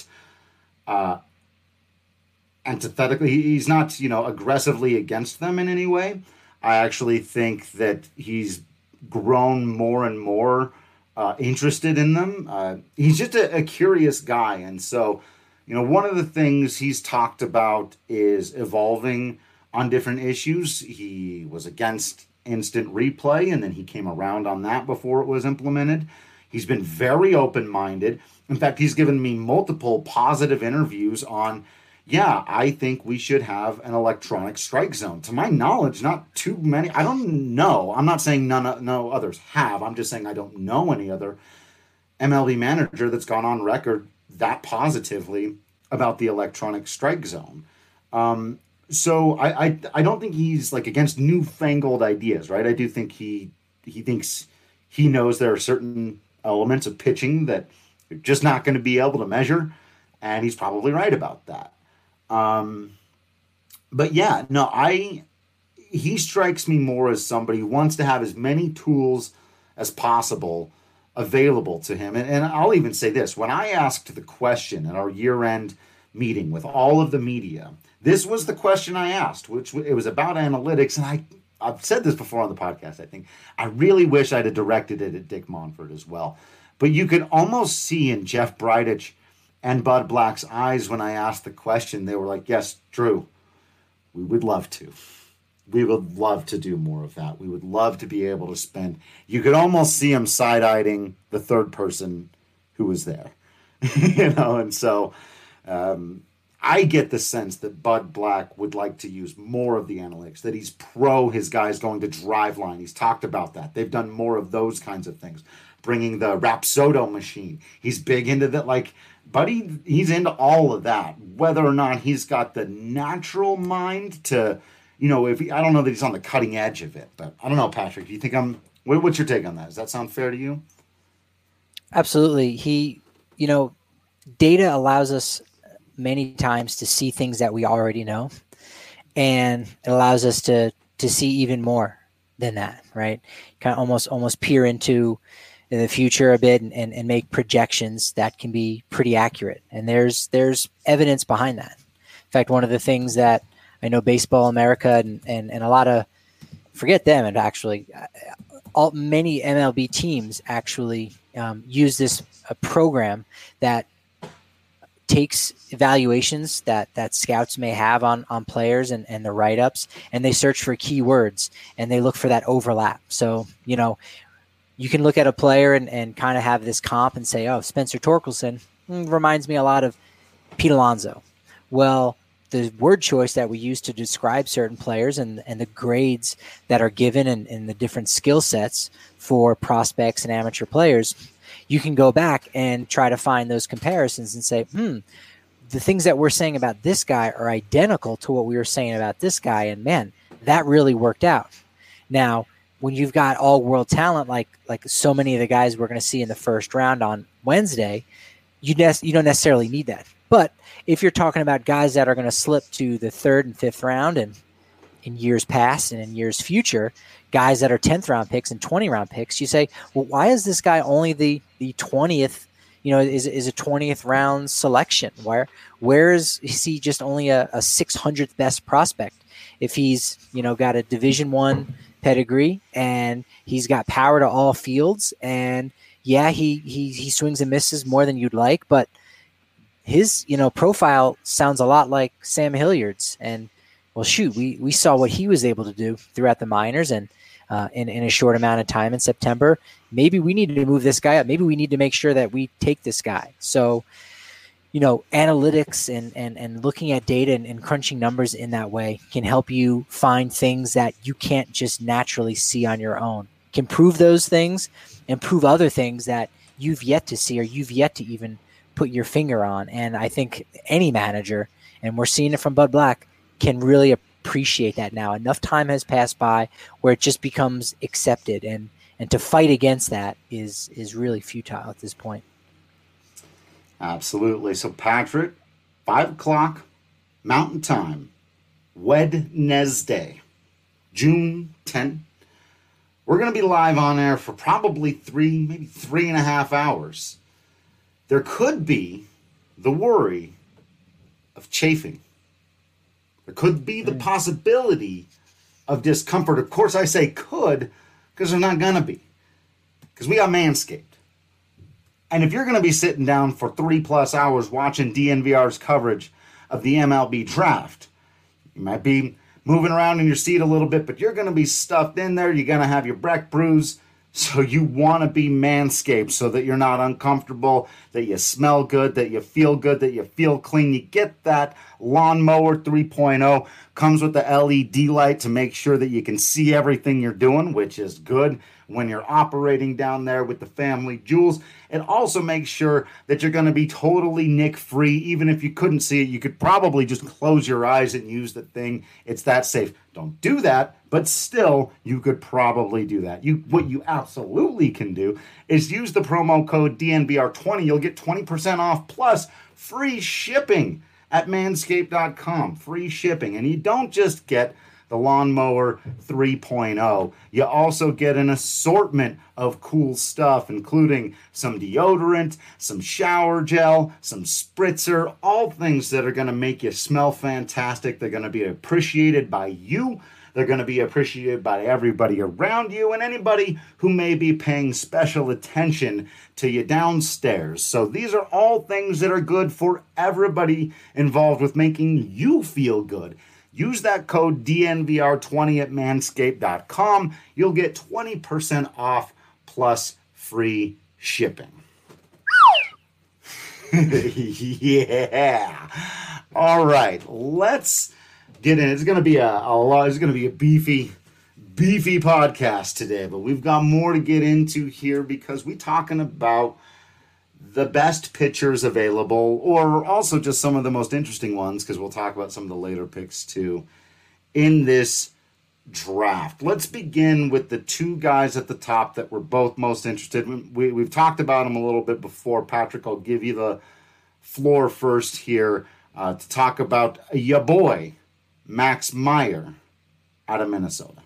antithetically, he's not, aggressively against them in any way. I actually think that he's grown more and more interested in them. He's just a curious guy. And so, one of the things he's talked about is evolving on different issues. He was against instant replay, and then he came around on that before it was implemented. He's been very open-minded. In fact, he's given me multiple positive interviews on, I think we should have an electronic strike zone. To my knowledge, not too many. I don't know. I'm not saying no others have. I'm just saying I don't know any other MLB manager that's gone on record that positively about the electronic strike zone. So I don't think he's like against newfangled ideas, right? I do think he thinks he knows there are certain elements of pitching that you're just not going to be able to measure, and he's probably right about that. But he strikes me more as somebody who wants to have as many tools as possible available to him. And I'll even say this, when I asked the question at our year-end meeting with all of the media, this was the question I asked, which it was about analytics. And I've said this before on the podcast, I think. I really wish I'd have directed it at Dick Monfort as well. But you could almost see in Jeff Bridich and Bud Black's eyes when I asked the question, they were like, yes, Drew, we would love to. We would love to do more of that. We would love to be able to spend. You could almost see him side-eyeing the third person who was there. And so I get the sense that Bud Black would like to use more of the analytics, that he's pro his guys going to drive line. He's talked about that. They've done more of those kinds of things, bringing the Rapsodo machine. He's big into that, Buddy, he's into all of that. Whether or not he's got the natural mind to, I don't know that he's on the cutting edge of it, but I don't know, Patrick. Do you think what's your take on that? Does that sound fair to you? Absolutely. Data allows us many times to see things that we already know, and it allows us to see even more than that, right? Kind of almost peer into the future a bit and make projections that can be pretty accurate. And there's evidence behind that. In fact, one of the things that I know Baseball America and a lot of, forget them, and actually many MLB teams actually use this program that takes evaluations that scouts may have on players and the write-ups, and they search for keywords and they look for that overlap. So, you can look at a player and kind of have this comp and say, oh, Spencer Torkelson reminds me a lot of Pete Alonso. Well, the word choice that we use to describe certain players and the grades that are given and the different skill sets for prospects and amateur players, you can go back and try to find those comparisons and say, the things that we're saying about this guy are identical to what we were saying about this guy. And man, that really worked out. Now, when you've got all world talent, like so many of the guys we're going to see in the first round on Wednesday, you don't necessarily need that. But if you're talking about guys that are going to slip to the 3rd and 5th round, and in years past and in years future, guys that are 10th round picks and 20 round picks, you say, well, why is this guy only the 20th, is a 20th round selection? Where is he just only a 600th best prospect? if he's, got a Division I pedigree and he's got power to all fields, and yeah, he swings and misses more than you'd like, but his, profile sounds a lot like Sam Hilliard's. And well, shoot, we saw what he was able to do throughout the minors and in a short amount of time in September. Maybe we need to move this guy up. Maybe we need to make sure that we take this guy. So, analytics and looking at data and crunching numbers in that way can help you find things that you can't just naturally see on your own. Can prove those things and prove other things that you've yet to see or you've yet to even put your finger on. And I think any manager, and we're seeing it from Bud Black, can really appreciate that now. Enough time has passed by where it just becomes accepted, and to fight against that is really futile at this point. Absolutely. So, Patrick, 5 o'clock Mountain Time, Wednesday, June 10th. We're going to be live on air for probably maybe 3.5 hours. There could be the worry of chafing. There could be the possibility of discomfort. Of course, I say could because they're not going to be. Because we got Manscaped. And if you're going to be sitting down for 3+ hours watching DNVR's coverage of the MLB draft, you might be moving around in your seat a little bit, but you're going to be stuffed in there. You're going to have your Breck bruise. So you want to be Manscaped so that you're not uncomfortable, that you smell good, that you feel good, that you feel clean. You get that Lawnmower 3.0. Comes with the LED light to make sure that you can see everything you're doing, which is good when you're operating down there with the family jewels. It also makes sure that you're going to be totally nick-free. Even if you couldn't see it, you could probably just close your eyes and use the thing. It's that safe. Don't do that, but still, you could probably do that. What you absolutely can do is use the promo code DNVR20. You'll get 20% off plus free shipping at manscaped.com. Free shipping. And you don't just get the Lawnmower 3.0. You also get an assortment of cool stuff, including some deodorant, some shower gel, some spritzer, all things that are going to make you smell fantastic. They're going to be appreciated by you. They're going to be appreciated by everybody around you and anybody who may be paying special attention to you downstairs. So these are all things that are good for everybody involved with making you feel good. Use that code DNVR20 at manscaped.com. You'll get 20% off plus free shipping. Yeah. All right, let's get in. It's going to be a beefy podcast today, but we've got more to get into here because we're talking about the best pitchers available, or also just some of the most interesting ones, because we'll talk about some of the later picks too in this draft. Let's begin with the two guys at the top that we're both most interested in. We've talked about them a little bit before. Patrick, I'll give you the floor first here to talk about your boy, Max Meyer, out of Minnesota.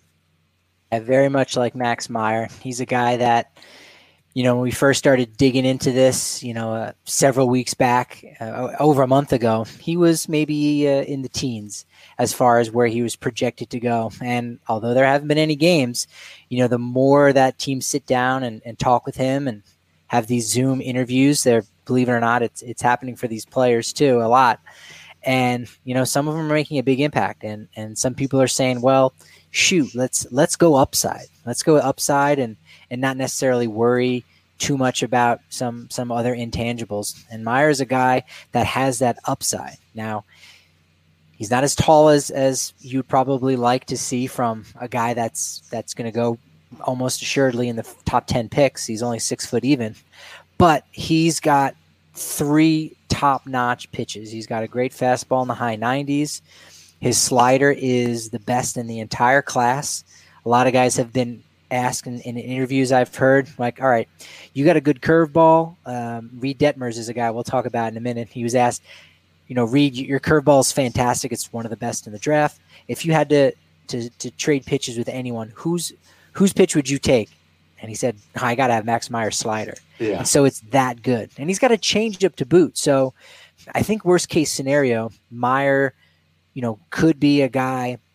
I very much like Max Meyer. He's a guy that, when we first started digging into this, several weeks back, over a month ago, he was maybe in the teens as far as where he was projected to go. And although there haven't been any games, the more that teams sit down and talk with him and have these Zoom interviews, believe it or not, it's happening for these players too, a lot. And, some of them are making a big impact. And some people are saying, well, shoot, let's go upside. Let's go upside and not necessarily worry too much about some other intangibles. And Meyer's a guy that has that upside. Now, he's not as tall as you'd probably like to see from a guy that's going to go almost assuredly in the top 10 picks. He's only 6 foot even, but he's got 3 top-notch pitches. He's got a great fastball in the high 90s. His slider is the best in the entire class. A lot of guys have been asked in interviews I've heard, like, all right, you got a good curveball. Reed Detmers is a guy we'll talk about in a minute. He was asked, Reed, your curveball is fantastic. It's one of the best in the draft. If you had to trade pitches with anyone, whose pitch would you take? And he said, I got to have Max Meyer's slider. Yeah. And so it's that good. And he's got a change up to boot. So I think worst case scenario, Meyer, could be a guy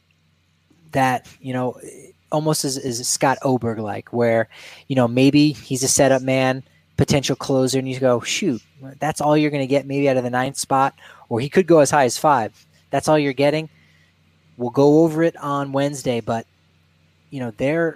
that, almost as Scott Oberg like, where, maybe he's a setup man, potential closer, and you go, shoot, that's all you're going to get maybe out of the 9th spot, or he could go as high as 5. That's all you're getting. We'll go over it on Wednesday, but these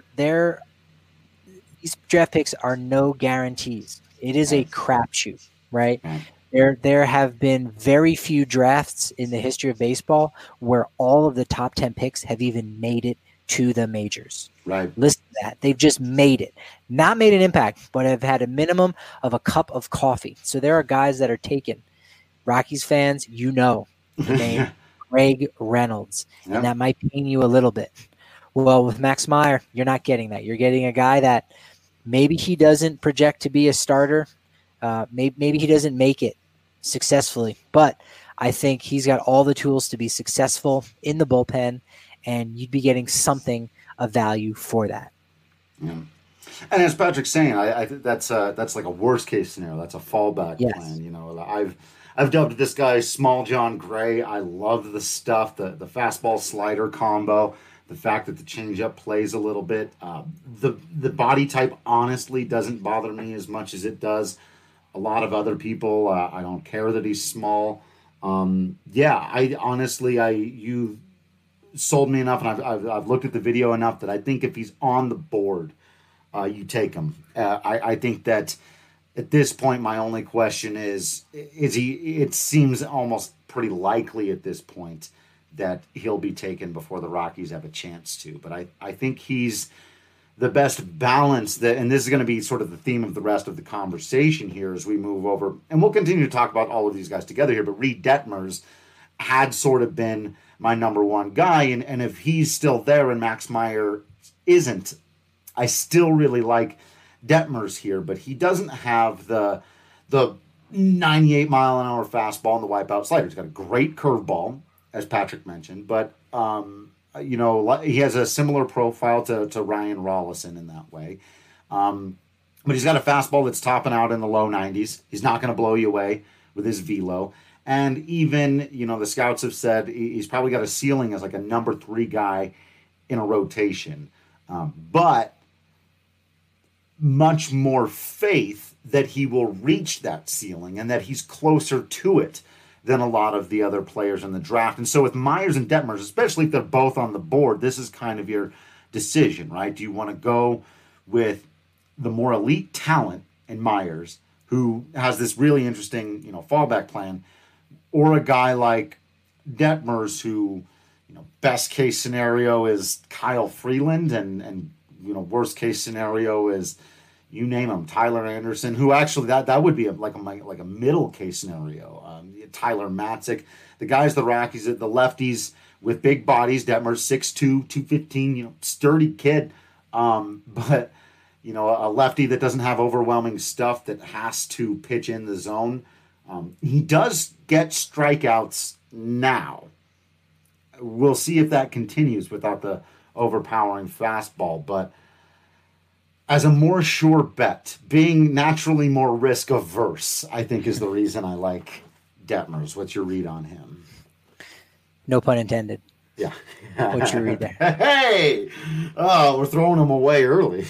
draft picks are no guarantees. It is a crapshoot, right? There have been very few drafts in the history of baseball where all of the top 10 picks have even made it to the majors. Right. Listen to that. They've just made it. Not made an impact, but have had a minimum of a cup of coffee. So there are guys that are taken. Rockies fans, the name Greg Reynolds. Yep. And that might pain you a little bit. Well, with Max Meyer, you're not getting that. You're getting a guy that maybe he doesn't project to be a starter. Maybe he doesn't make it successfully, but I think he's got all the tools to be successful in the bullpen, and you'd be getting something of value for that. Yeah. And as Patrick's saying, I think that's like a worst case scenario. That's a fallback plan. I've dubbed this guy Small John Gray. I love the stuff, the fastball slider combo, the fact that the changeup plays a little bit. The body type honestly doesn't bother me as much as it does a lot of other people. I don't care that he's small. You sold me enough, and I've looked at the video enough that I think if he's on the board, you take him. I think that at this point, my only question is he? It seems almost pretty likely at this point that he'll be taken before the Rockies have a chance to. But I think he's the best balance, and this is going to be sort of the theme of the rest of the conversation here as we move over. And we'll continue to talk about all of these guys together here, but Reed Detmers had sort of been my number one guy. And if he's still there and Max Meyer isn't, I still really like Detmers here, but he doesn't have the 98-mile-an-hour fastball and the wipeout slider. He's got a great curveball, as Patrick mentioned, but he has a similar profile to Ryan Rollison in that way. But he's got a fastball that's topping out in the low 90s. He's not going to blow you away with his velo. And even, the scouts have said he's probably got a ceiling as like a number 3 guy in a rotation. But much more faith that he will reach that ceiling and that he's closer to it than a lot of the other players in the draft. And so with Myers and Detmers, especially if they're both on the board, this is kind of your decision, right? Do you want to go with the more elite talent in Myers, who has this really interesting, fallback plan, or a guy like Detmers who, best case scenario is Kyle Freeland and worst case scenario is, you name him, Tyler Anderson, who actually that would be like a middle case scenario. Tyler Matzik, the guys, the Rockies, the lefties with big bodies. Detmers 6'2", 215, sturdy kid, but a lefty that doesn't have overwhelming stuff that has to pitch in the zone. He does get strikeouts now. We'll see if that continues without the overpowering fastball, but as a more sure bet, being naturally more risk averse, I think is the reason I like Detmers. What's your read on him? No pun intended. Yeah. What's your read there? Hey! Oh, we're throwing him away early.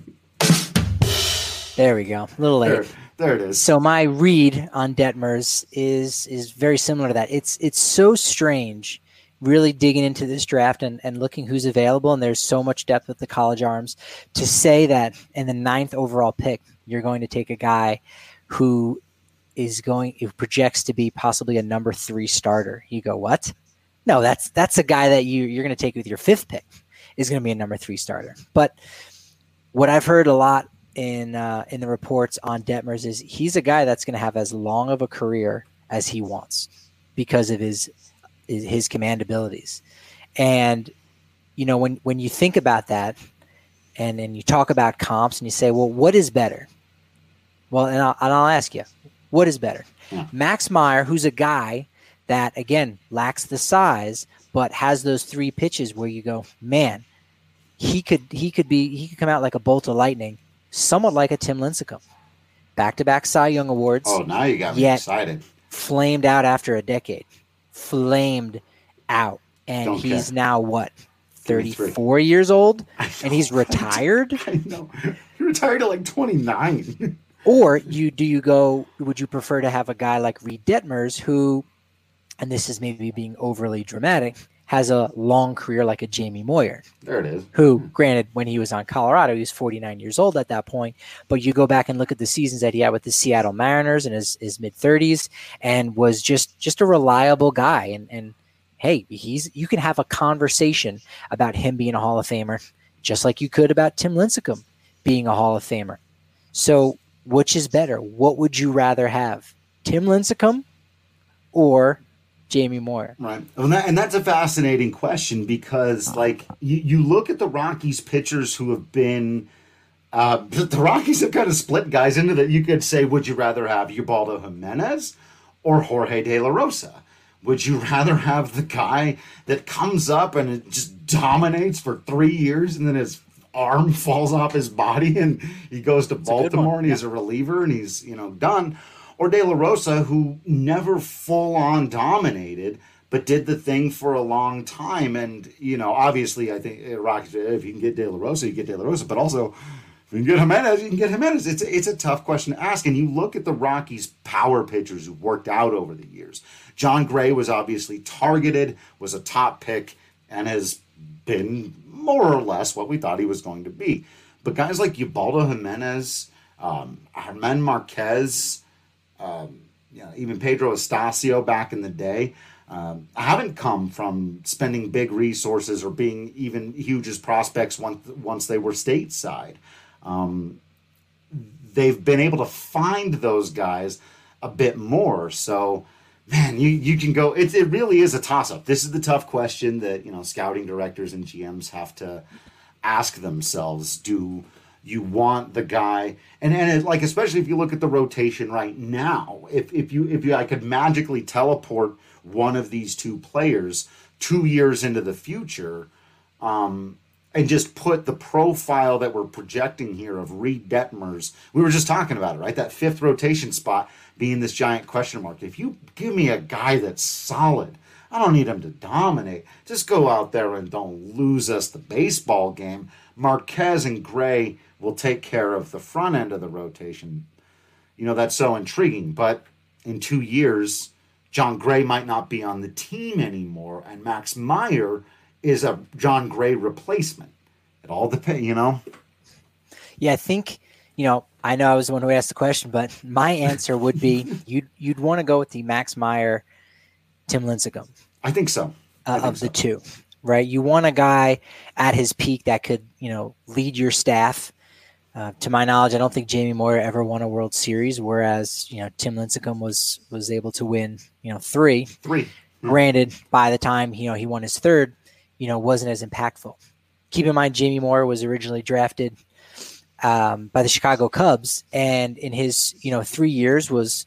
There we go. A little late. There it is. So my read on Detmers is very similar to that. It's so strange really digging into this draft and looking who's available, and there's so much depth with the college arms, to say that in the 9th overall pick, you're going to take a guy who projects to be possibly a number 3 starter. You go, what? No, that's a guy that you're going to take with your 5th pick is going to be a number 3 starter. But what I've heard a lot in the reports on Detmers is he's a guy that's going to have as long of a career as he wants because of his command abilities. And, when you think about that and you talk about comps and you say, well, what is better? Well, and I'll ask you, what is better? Yeah. Max Meyer, who's a guy that, again, lacks the size, but has those 3 pitches where you go, man, he could come out like a bolt of lightning, somewhat like a Tim Lincecum. Back-to-back Cy Young Awards. Oh, now you got me excited. Flamed out after a decade. Flamed out. And he's now what? 34 years old and he's retired? I know. He retired at like 29. Or would you prefer to have a guy like Reed Detmers who, and this is maybe being overly dramatic, has a long career like a Jamie Moyer. There it is. Who, granted, when he was on Colorado, he was 49 years old at that point. But you go back and look at the seasons that he had with the Seattle Mariners in his mid-30s and was just a reliable guy. And hey, you can have a conversation about him being a Hall of Famer, just like you could about Tim Lincecum being a Hall of Famer. So which is better? What would you rather have? Tim Lincecum or Jamie Moyer? Right. And that's a fascinating question because, like, you look at the Rockies pitchers who have been the Rockies have kind of split guys into that. You could say, would you rather have Ubaldo Jimenez or Jorge De La Rosa? Would you rather have the guy that comes up and it just dominates for 3 years and then his arm falls off his body and he goes to Baltimore and he's a reliever and he's, done? Or De La Rosa, who never full-on dominated, but did the thing for a long time. And, obviously, I think Rockies, if you can get De La Rosa, you get De La Rosa. But also, if you can get Jimenez, you can get Jimenez. It's a tough question to ask. And you look at the Rockies' power pitchers who worked out over the years. Jon Gray was obviously targeted, was a top pick, and has been more or less what we thought he was going to be. But guys like Ubaldo Jimenez, Germán Marquez, even Pedro Estacio back in the day, haven't come from spending big resources or being even huge as prospects once they were stateside. They've been able to find those guys a bit more. So, man, you can go. It really is a toss-up. This is the tough question that scouting directors and GMs have to ask themselves. Do you want the guy, and especially if you look at the rotation right now, if I could magically teleport one of these two players 2 years into the future, and just put the profile that we're projecting here of Reed Detmers, we were just talking about it, right? That fifth rotation spot being this giant question mark. If you give me a guy that's solid, I don't need him to dominate. Just go out there and don't lose us the baseball game. Marquez and Gray will take care of the front end of the rotation. That's so intriguing. But in 2 years, Jon Gray might not be on the team anymore, and Max Meyer is a Jon Gray replacement. It all depends, Yeah, I think, I know I was the one who asked the question, but my answer would be you'd want to go with the Max Meyer, Tim Lincecum. I think so. The two, right? You want a guy at his peak that could, lead your staff. To my knowledge, I don't think Jamie Moyer ever won a World Series, whereas, Tim Lincecum was able to win, three. Granted, by the time, he won his third, wasn't as impactful. Keep in mind, Jamie Moyer was originally drafted by the Chicago Cubs, and in his, 3 years was,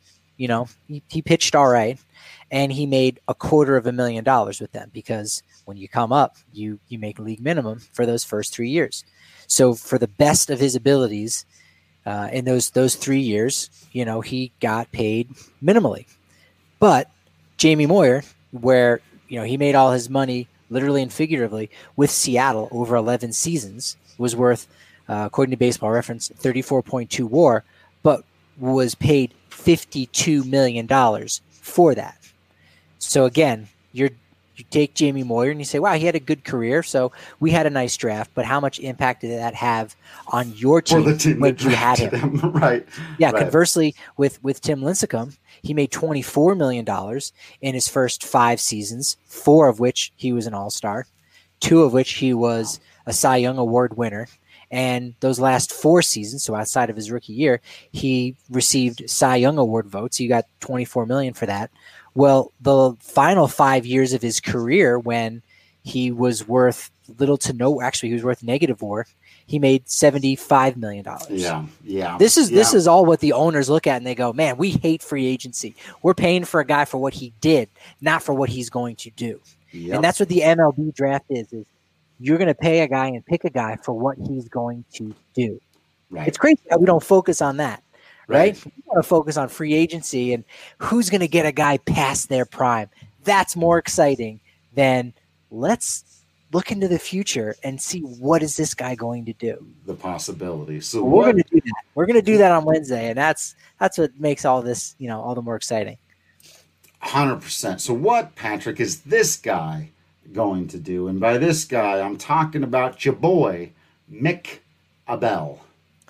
he pitched all right, and he made $250,000 with them because when you come up, you make league minimum for those first 3 years. So for the best of his abilities in those 3 years, he got paid minimally. But Jamie Moyer, where, he made all his money literally and figuratively with Seattle over 11 seasons, was worth, according to Baseball Reference, 34.2 WAR, but was paid $52 million for that. So again, you take Jamie Moyer and you say, wow, he had a good career, so we had a nice draft, but how much impact did that have on your team, when you had him? Right. Yeah, right. Conversely, with Tim Lincecum, he made $24 million in his first 5 seasons, 4 of which he was an all-star, 2 of which he was a Cy Young Award winner. And those last 4 seasons, so outside of his rookie year, he received Cy Young Award votes. He got $24 million for that. Well, the final 5 years of his career, when he was worth little to no, actually he was worth negative WAR, he made $75 million. Yeah. This is all what the owners look at and they go, man, we hate free agency. We're paying for a guy for what he did, not for what he's going to do. Yep. And that's what the MLB draft is you're going to pay a guy and pick a guy for what he's going to do. Right. It's crazy that we don't focus on that. Right? We want to focus on free agency and who's going to get a guy past their prime. That's more exciting than let's look into the future and see what is this guy going to do. The possibility. So we're going to do that. We're going to do that on Wednesday, and that's what makes all this, all the more exciting. 100%. So what, Patrick, is this guy going to do? And by this guy, I'm talking about your boy, Mick Abel.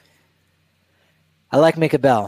I like Mick Abel.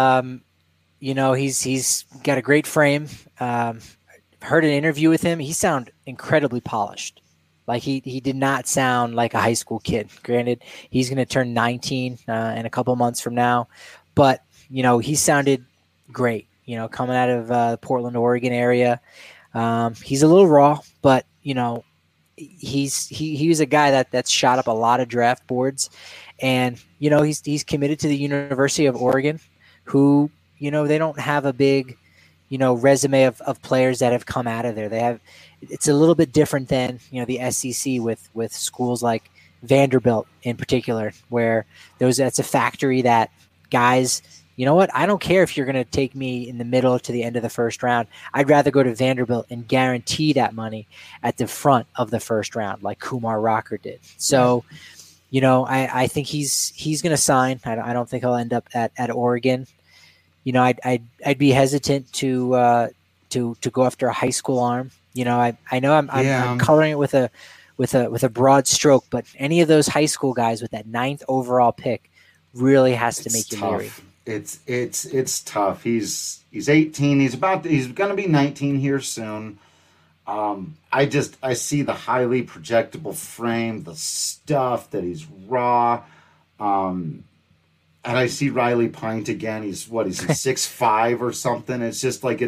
He's got a great frame. Heard an interview with him. He sounded incredibly polished. Like he did not sound like a high school kid. Granted, he's going to turn 19 in a couple months from now, but he sounded great. Coming out of the Portland, Oregon area, he's a little raw, but he was a guy that's shot up a lot of draft boards, and he's committed to the University of Oregon, who they don't have a big resume of players that have come out of there. It's a little bit different than the SEC with schools like Vanderbilt in particular, where that's a factory that guys. You know what? I don't care if you're going to take me in the middle to the end of the first round. I'd rather go to Vanderbilt and guarantee that money at the front of the first round, like Kumar Rocker did. So, I think he's going to sign. I don't think he'll end up at Oregon. I'd be hesitant to go after a high school arm. I know I'm coloring it with a broad stroke, but any of those high school guys with that 9th overall pick really has to make you leery. It's tough. He's 18. He's going to be 19 here soon. I see the highly projectable frame, the stuff that he's raw. And I see Riley Pint again. He's 6'5" or something. It's just like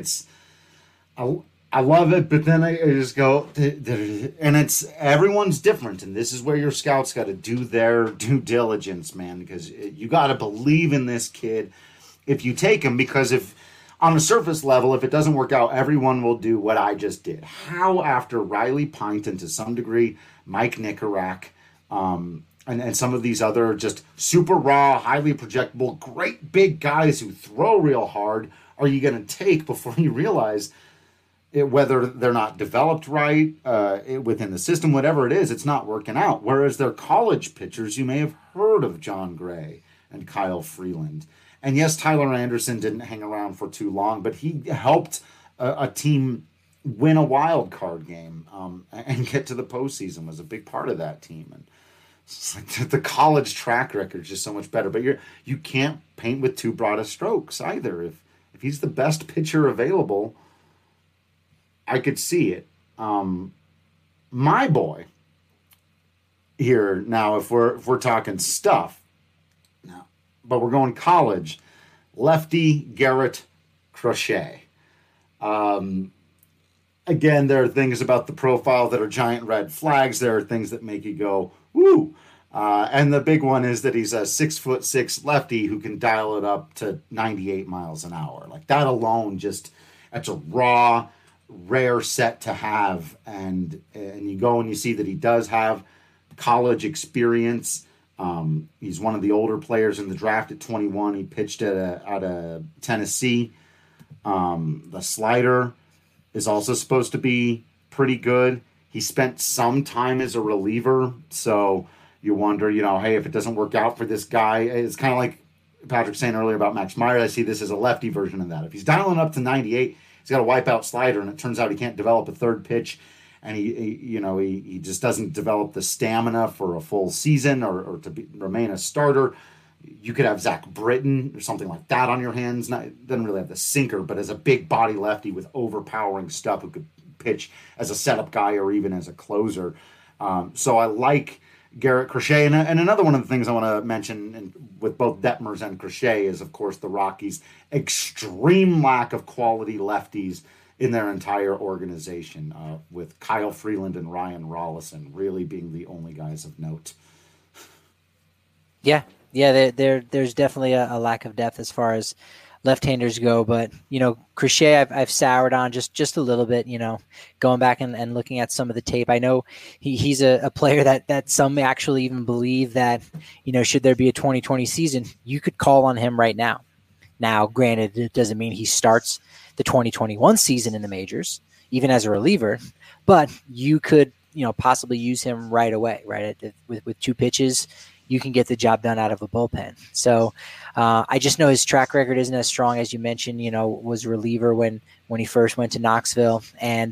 I love it, but then I just go, and it's everyone's different, and this is where your scouts got to do their due diligence, man, because you got to believe in this kid if you take him, because if on a surface level, if it doesn't work out, everyone will do what I just did. How after Riley Pint and to some degree Mike Nicorak, and some of these other just super raw, highly projectable, great big guys who throw real hard, are you going to take before you realize whether they're not developed right within the system, whatever it is, it's not working out. Whereas their college pitchers, you may have heard of John Gray and Kyle Freeland. And yes, Tyler Anderson didn't hang around for too long, but he helped a team win a wild card game and get to the postseason, was a big part of that team. And it's like the college track record is just so much better. But you can't paint with too broad of strokes either. If he's the best pitcher available, I could see it. My boy here now, if we're talking stuff now, but we're going college, lefty Garrett Crochet. Again, there are things about the profile that are giant red flags. There are things that make you go, woo. And the big one is that he's a 6'6" lefty who can dial it up to 98 miles an hour. Like that alone, that's a raw, rare set to have, and you go and you see that he does have college experience. He's one of the older players in the draft at 21. He pitched out of Tennessee. The slider is also supposed to be pretty good. He spent some time as a reliever, so you wonder, hey, if it doesn't work out for this guy, it's kind of like Patrick saying earlier about Max Meyer. I see this as a lefty version of that. If he's dialing up to 98, he's got a wipeout slider, and it turns out he can't develop a third pitch, and he just doesn't develop the stamina for a full season or to remain a starter. You could have Zach Britton or something like that on your hands. Doesn't really have the sinker, but as a big body lefty with overpowering stuff who could pitch as a setup guy or even as a closer. So I like Garrett Crochet. And another one of the things I want to mention with both Detmers and Crochet is, of course, the Rockies' extreme lack of quality lefties in their entire organization, with Kyle Freeland and Ryan Rollison really being the only guys of note. Yeah, there's definitely a lack of depth as far as left-handers go, but Crochet I've soured on just a little bit, going back and looking at some of the tape. I know he's a player that some actually even believe that, should there be a 2020 season, you could call on him right now. Now, granted, it doesn't mean he starts the 2021 season in the majors, even as a reliever, but you could, possibly use him right away, right? With 2 pitches, you can get the job done out of a bullpen. So I just know his track record isn't as strong as you mentioned, was a reliever when he first went to Knoxville and,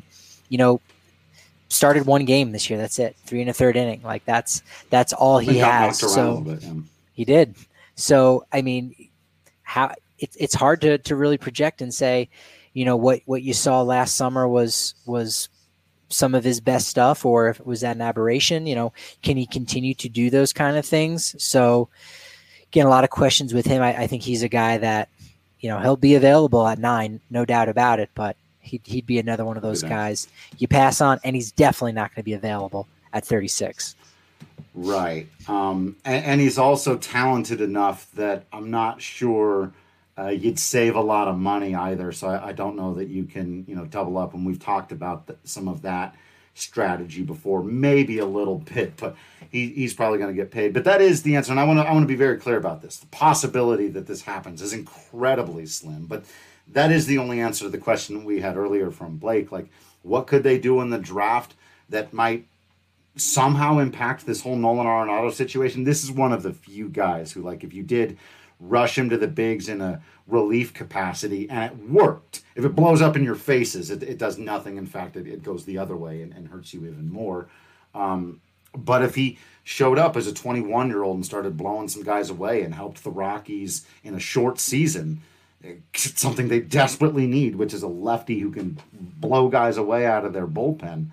started 1 game this year. That's it. 3 1/3 inning. Like that's all he has. So he did. So, I mean, how it's hard to really project and say, what you saw last summer was some of his best stuff, or if it was that an aberration, can he continue to do those kind of things? So again, a lot of questions with him. I think he's a guy that, he'll be available at 9, no doubt about it, but he'd be another one of those guys you pass on, and he's definitely not going to be available at 36. Right. And he's also talented enough that I'm not sure you'd save a lot of money either. So I don't know that you can, double up. And we've talked about some of that strategy before, maybe a little bit, but he's probably going to get paid. But that is the answer. And I want to be very clear about this. The possibility that this happens is incredibly slim, but that is the only answer to the question we had earlier from Blake. Like, what could they do in the draft that might somehow impact this whole Nolan Arenado situation? This is one of the few guys who, like, if you did rush him to the bigs in a relief capacity and it worked, if it blows up in your faces, it does nothing. In fact, it goes the other way and hurts you even more. But if he showed up as a 21-year-old and started blowing some guys away and helped the Rockies in a short season, it's something they desperately need, which is a lefty who can blow guys away out of their bullpen.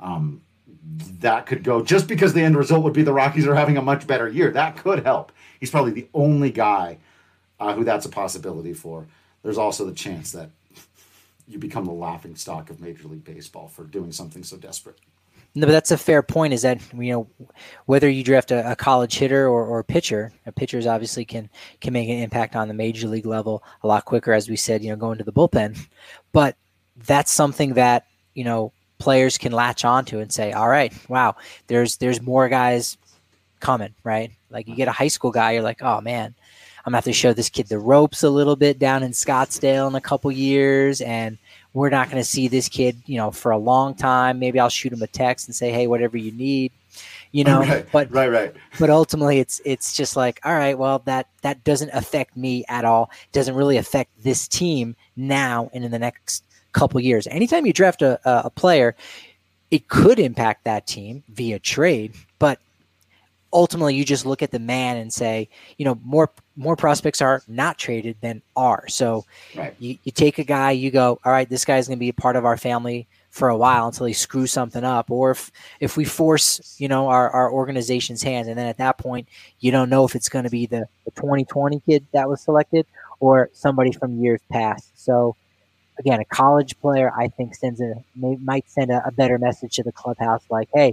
That could go, just because the end result would be the Rockies are having a much better year. That could help. He's probably the only guy who that's a possibility for. There's also the chance that you become the laughingstock of Major League Baseball for doing something so desperate. No, but that's a fair point, is that, whether you draft a college hitter or pitcher, pitchers obviously can make an impact on the major league level a lot quicker, as we said, going to the bullpen. But that's something that, players can latch onto and say, all right, wow, there's more guys coming, right? Like, you get a high school guy, you're like, oh man, I'm gonna have to show this kid the ropes a little bit down in Scottsdale in a couple years, and we're not going to see this kid, for a long time. Maybe I'll shoot him a text and say, hey, whatever you need, Right. But ultimately it's just like, all right, well, that doesn't affect me at all. It doesn't really affect this team now and in the next couple years. Anytime you draft a player, it could impact that team via trade, but ultimately you just look at the man and say, more prospects are not traded than are. So right. you take a guy, you go, all right, this guy's going to be a part of our family for a while until he screws something up. Or if we force, our organization's hand, and then at that point, you don't know if it's going to be the 2020 kid that was selected or somebody from years past. So again, a college player, I think, might send a better message to the clubhouse, like, hey,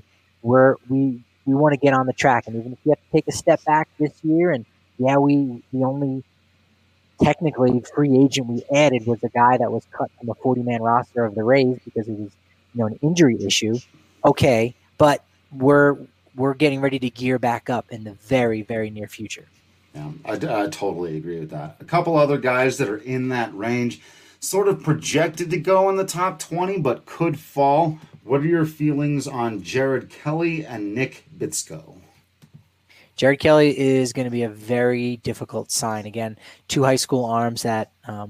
we want to get on the track, and even if you have to take a step back this year, and the only technically free agent we added was a guy that was cut from a 40-man roster of the Rays because it was, an injury issue. Okay, but we're getting ready to gear back up in the very, very near future. Yeah, I totally agree with that. A couple other guys that are in that range, sort of projected to go in the top 20, but could fall. What are your feelings on Jared Kelly and Nick Bitsko? Jared Kelly is going to be a very difficult sign. Again, 2 high school arms that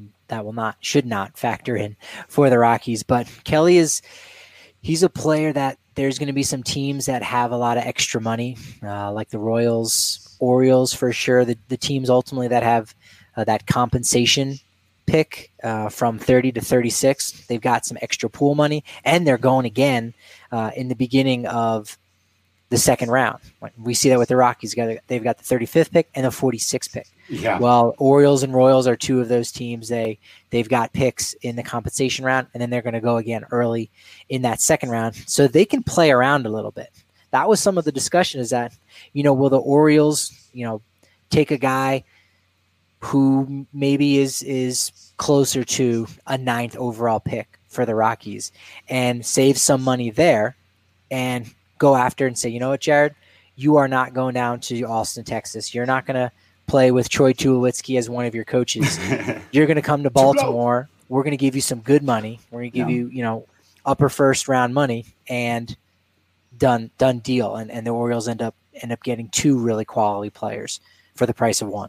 should not factor in for the Rockies. But Kelly he's a player that there's going to be some teams that have a lot of extra money, like the Royals, Orioles for sure. The teams ultimately that have that compensation pick from 30 to 36. They've got some extra pool money, and they're going again in the beginning of the second round. We see that with the Rockies. They've got the 35th pick and the 46th pick. Yeah. Well, Orioles and Royals are 2 of those teams. They've got picks in the compensation round, and then they're going to go again early in that second round. So they can play around a little bit. That was some of the discussion, is that, will the Orioles, take a guy who maybe is closer to a 9th overall pick for the Rockies and save some money there and go after and say, you know what, Jared, you are not going down to Austin, Texas. You're not going to play with Troy Tulowitzki as one of your coaches. You're going to come to Baltimore. We're going to give you some good money. We're going to give you, upper first round money, and done deal, and the Orioles end up getting 2 really quality players for the price of 1.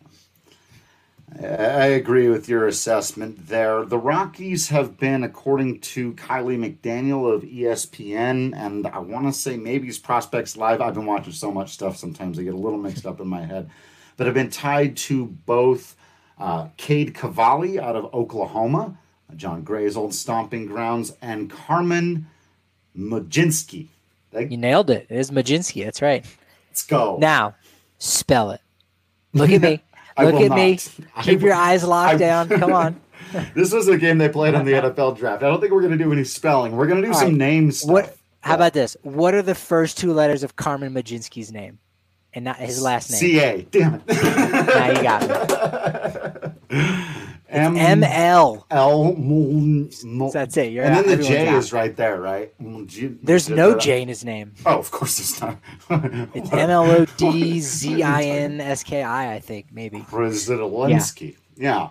I agree with your assessment there. The Rockies have been, according to Kylie McDaniel of ESPN, and I want to say maybe it's Prospects Live. I've been watching so much stuff sometimes I get a little mixed up in my head. But have been tied to both Cade Cavalli out of Oklahoma, John Gray's old stomping grounds, and Carmen Mlodzinski. You nailed it. It is Mlodzinski. That's right. Let's go. Now, spell it. Look at me. Look at me. Keep your eyes locked down. Come on. This was a game they played on the NFL draft. I don't think we're going to do any spelling. We're going to do some name stuff. How about this? What are the first 2 letters of Carmen Mlodzinski's name? And not his last name. C-A. Damn it. Now you got me. M-L. That's it. And then the J is right there, right? There's no J in his name. Oh, of course there's not. It's Mlodzinski, I think, maybe. Brzezinski. Yeah.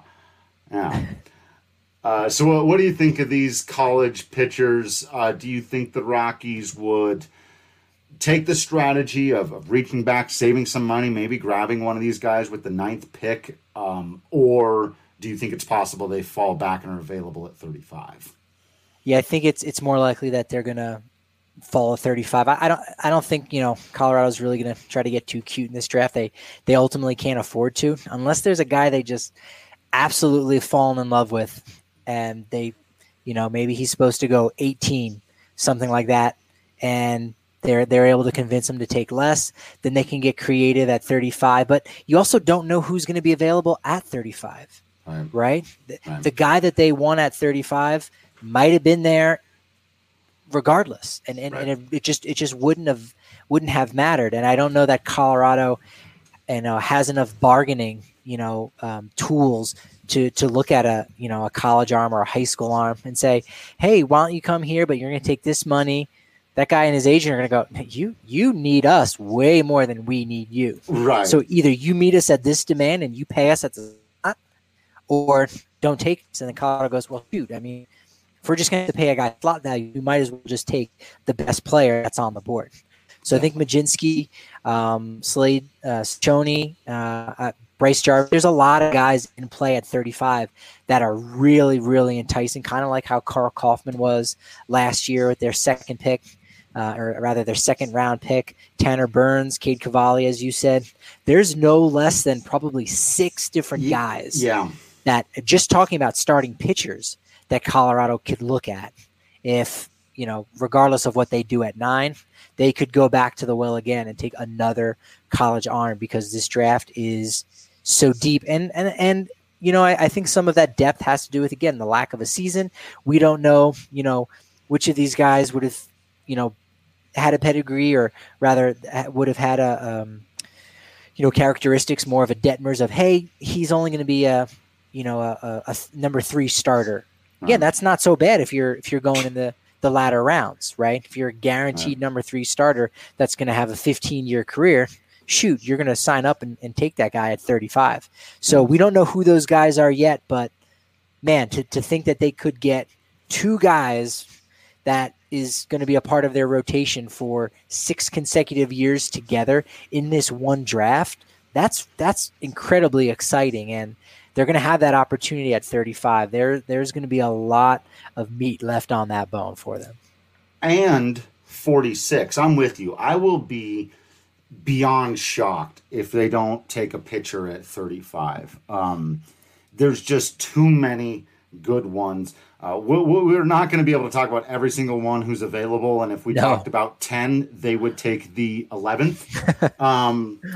So what do you think of these college pitchers? Do you think the Rockies would take the strategy of reaching back, saving some money, maybe grabbing one of these guys with the 9th pick, or do you think it's possible they fall back and are available at 35? Yeah, I think it's more likely that they're gonna fall at 35. I don't think Colorado's really gonna try to get too cute in this draft. They ultimately can't afford to, unless there's a guy they just absolutely fallen in love with, and they, maybe he's supposed to go 18, something like that, and they're able to convince him to take less. Then they can get creative at 35. But you also don't know who's going to be available at 35. Right? The guy that they won at 35 might have been there regardless, and it just wouldn't have mattered. And I don't know that Colorado has enough bargaining tools to look at a college arm or a high school arm and say, hey, why don't you come here, but you're going to take this money. That guy and his agent are going to go, you need us way more than we need you. Right. So either you meet us at this demand and you pay us at the spot, or don't take us. And then Colorado goes, well, shoot, I mean, if we're just going to pay a guy slot value, we might as well just take the best player that's on the board. So I think Mlodzinski, Slade, Ciccone, Bryce Jarvis, there's a lot of guys in play at 35 that are really, really enticing, kind of like how Carl Kaufman was last year with their second pick, or rather their second round pick, Tanner Burns, Cade Cavalli, as you said. There's no less than probably 6 different guys that, just talking about starting pitchers, that Colorado could look at if, regardless of what they do at 9, they could go back to the well again and take another college arm, because this draft is so deep. And I think some of that depth has to do with, again, the lack of a season. We don't know, which of these guys would have, had a pedigree, or rather would have had a, characteristics more of a Detmers of, hey, he's only going to be a number 3 starter. Again, that's not so bad if you're going in the latter rounds, right? If you're a guaranteed number 3 starter that's going to have a 15-year career, shoot, you're going to sign up and take that guy at 35. So we don't know who those guys are yet, but man, to think that they could get 2 guys that is going to be a part of their rotation for 6 consecutive years together in this one draft, that's incredibly exciting. And they're going to have that opportunity at 35. There's going to be a lot of meat left on that bone for them. And 46. I'm with you. I will be beyond shocked if they don't take a pitcher at 35. There's just too many good ones. We're not going to be able to talk about every single one who's available. And if we talked about 10, they would take the 11th.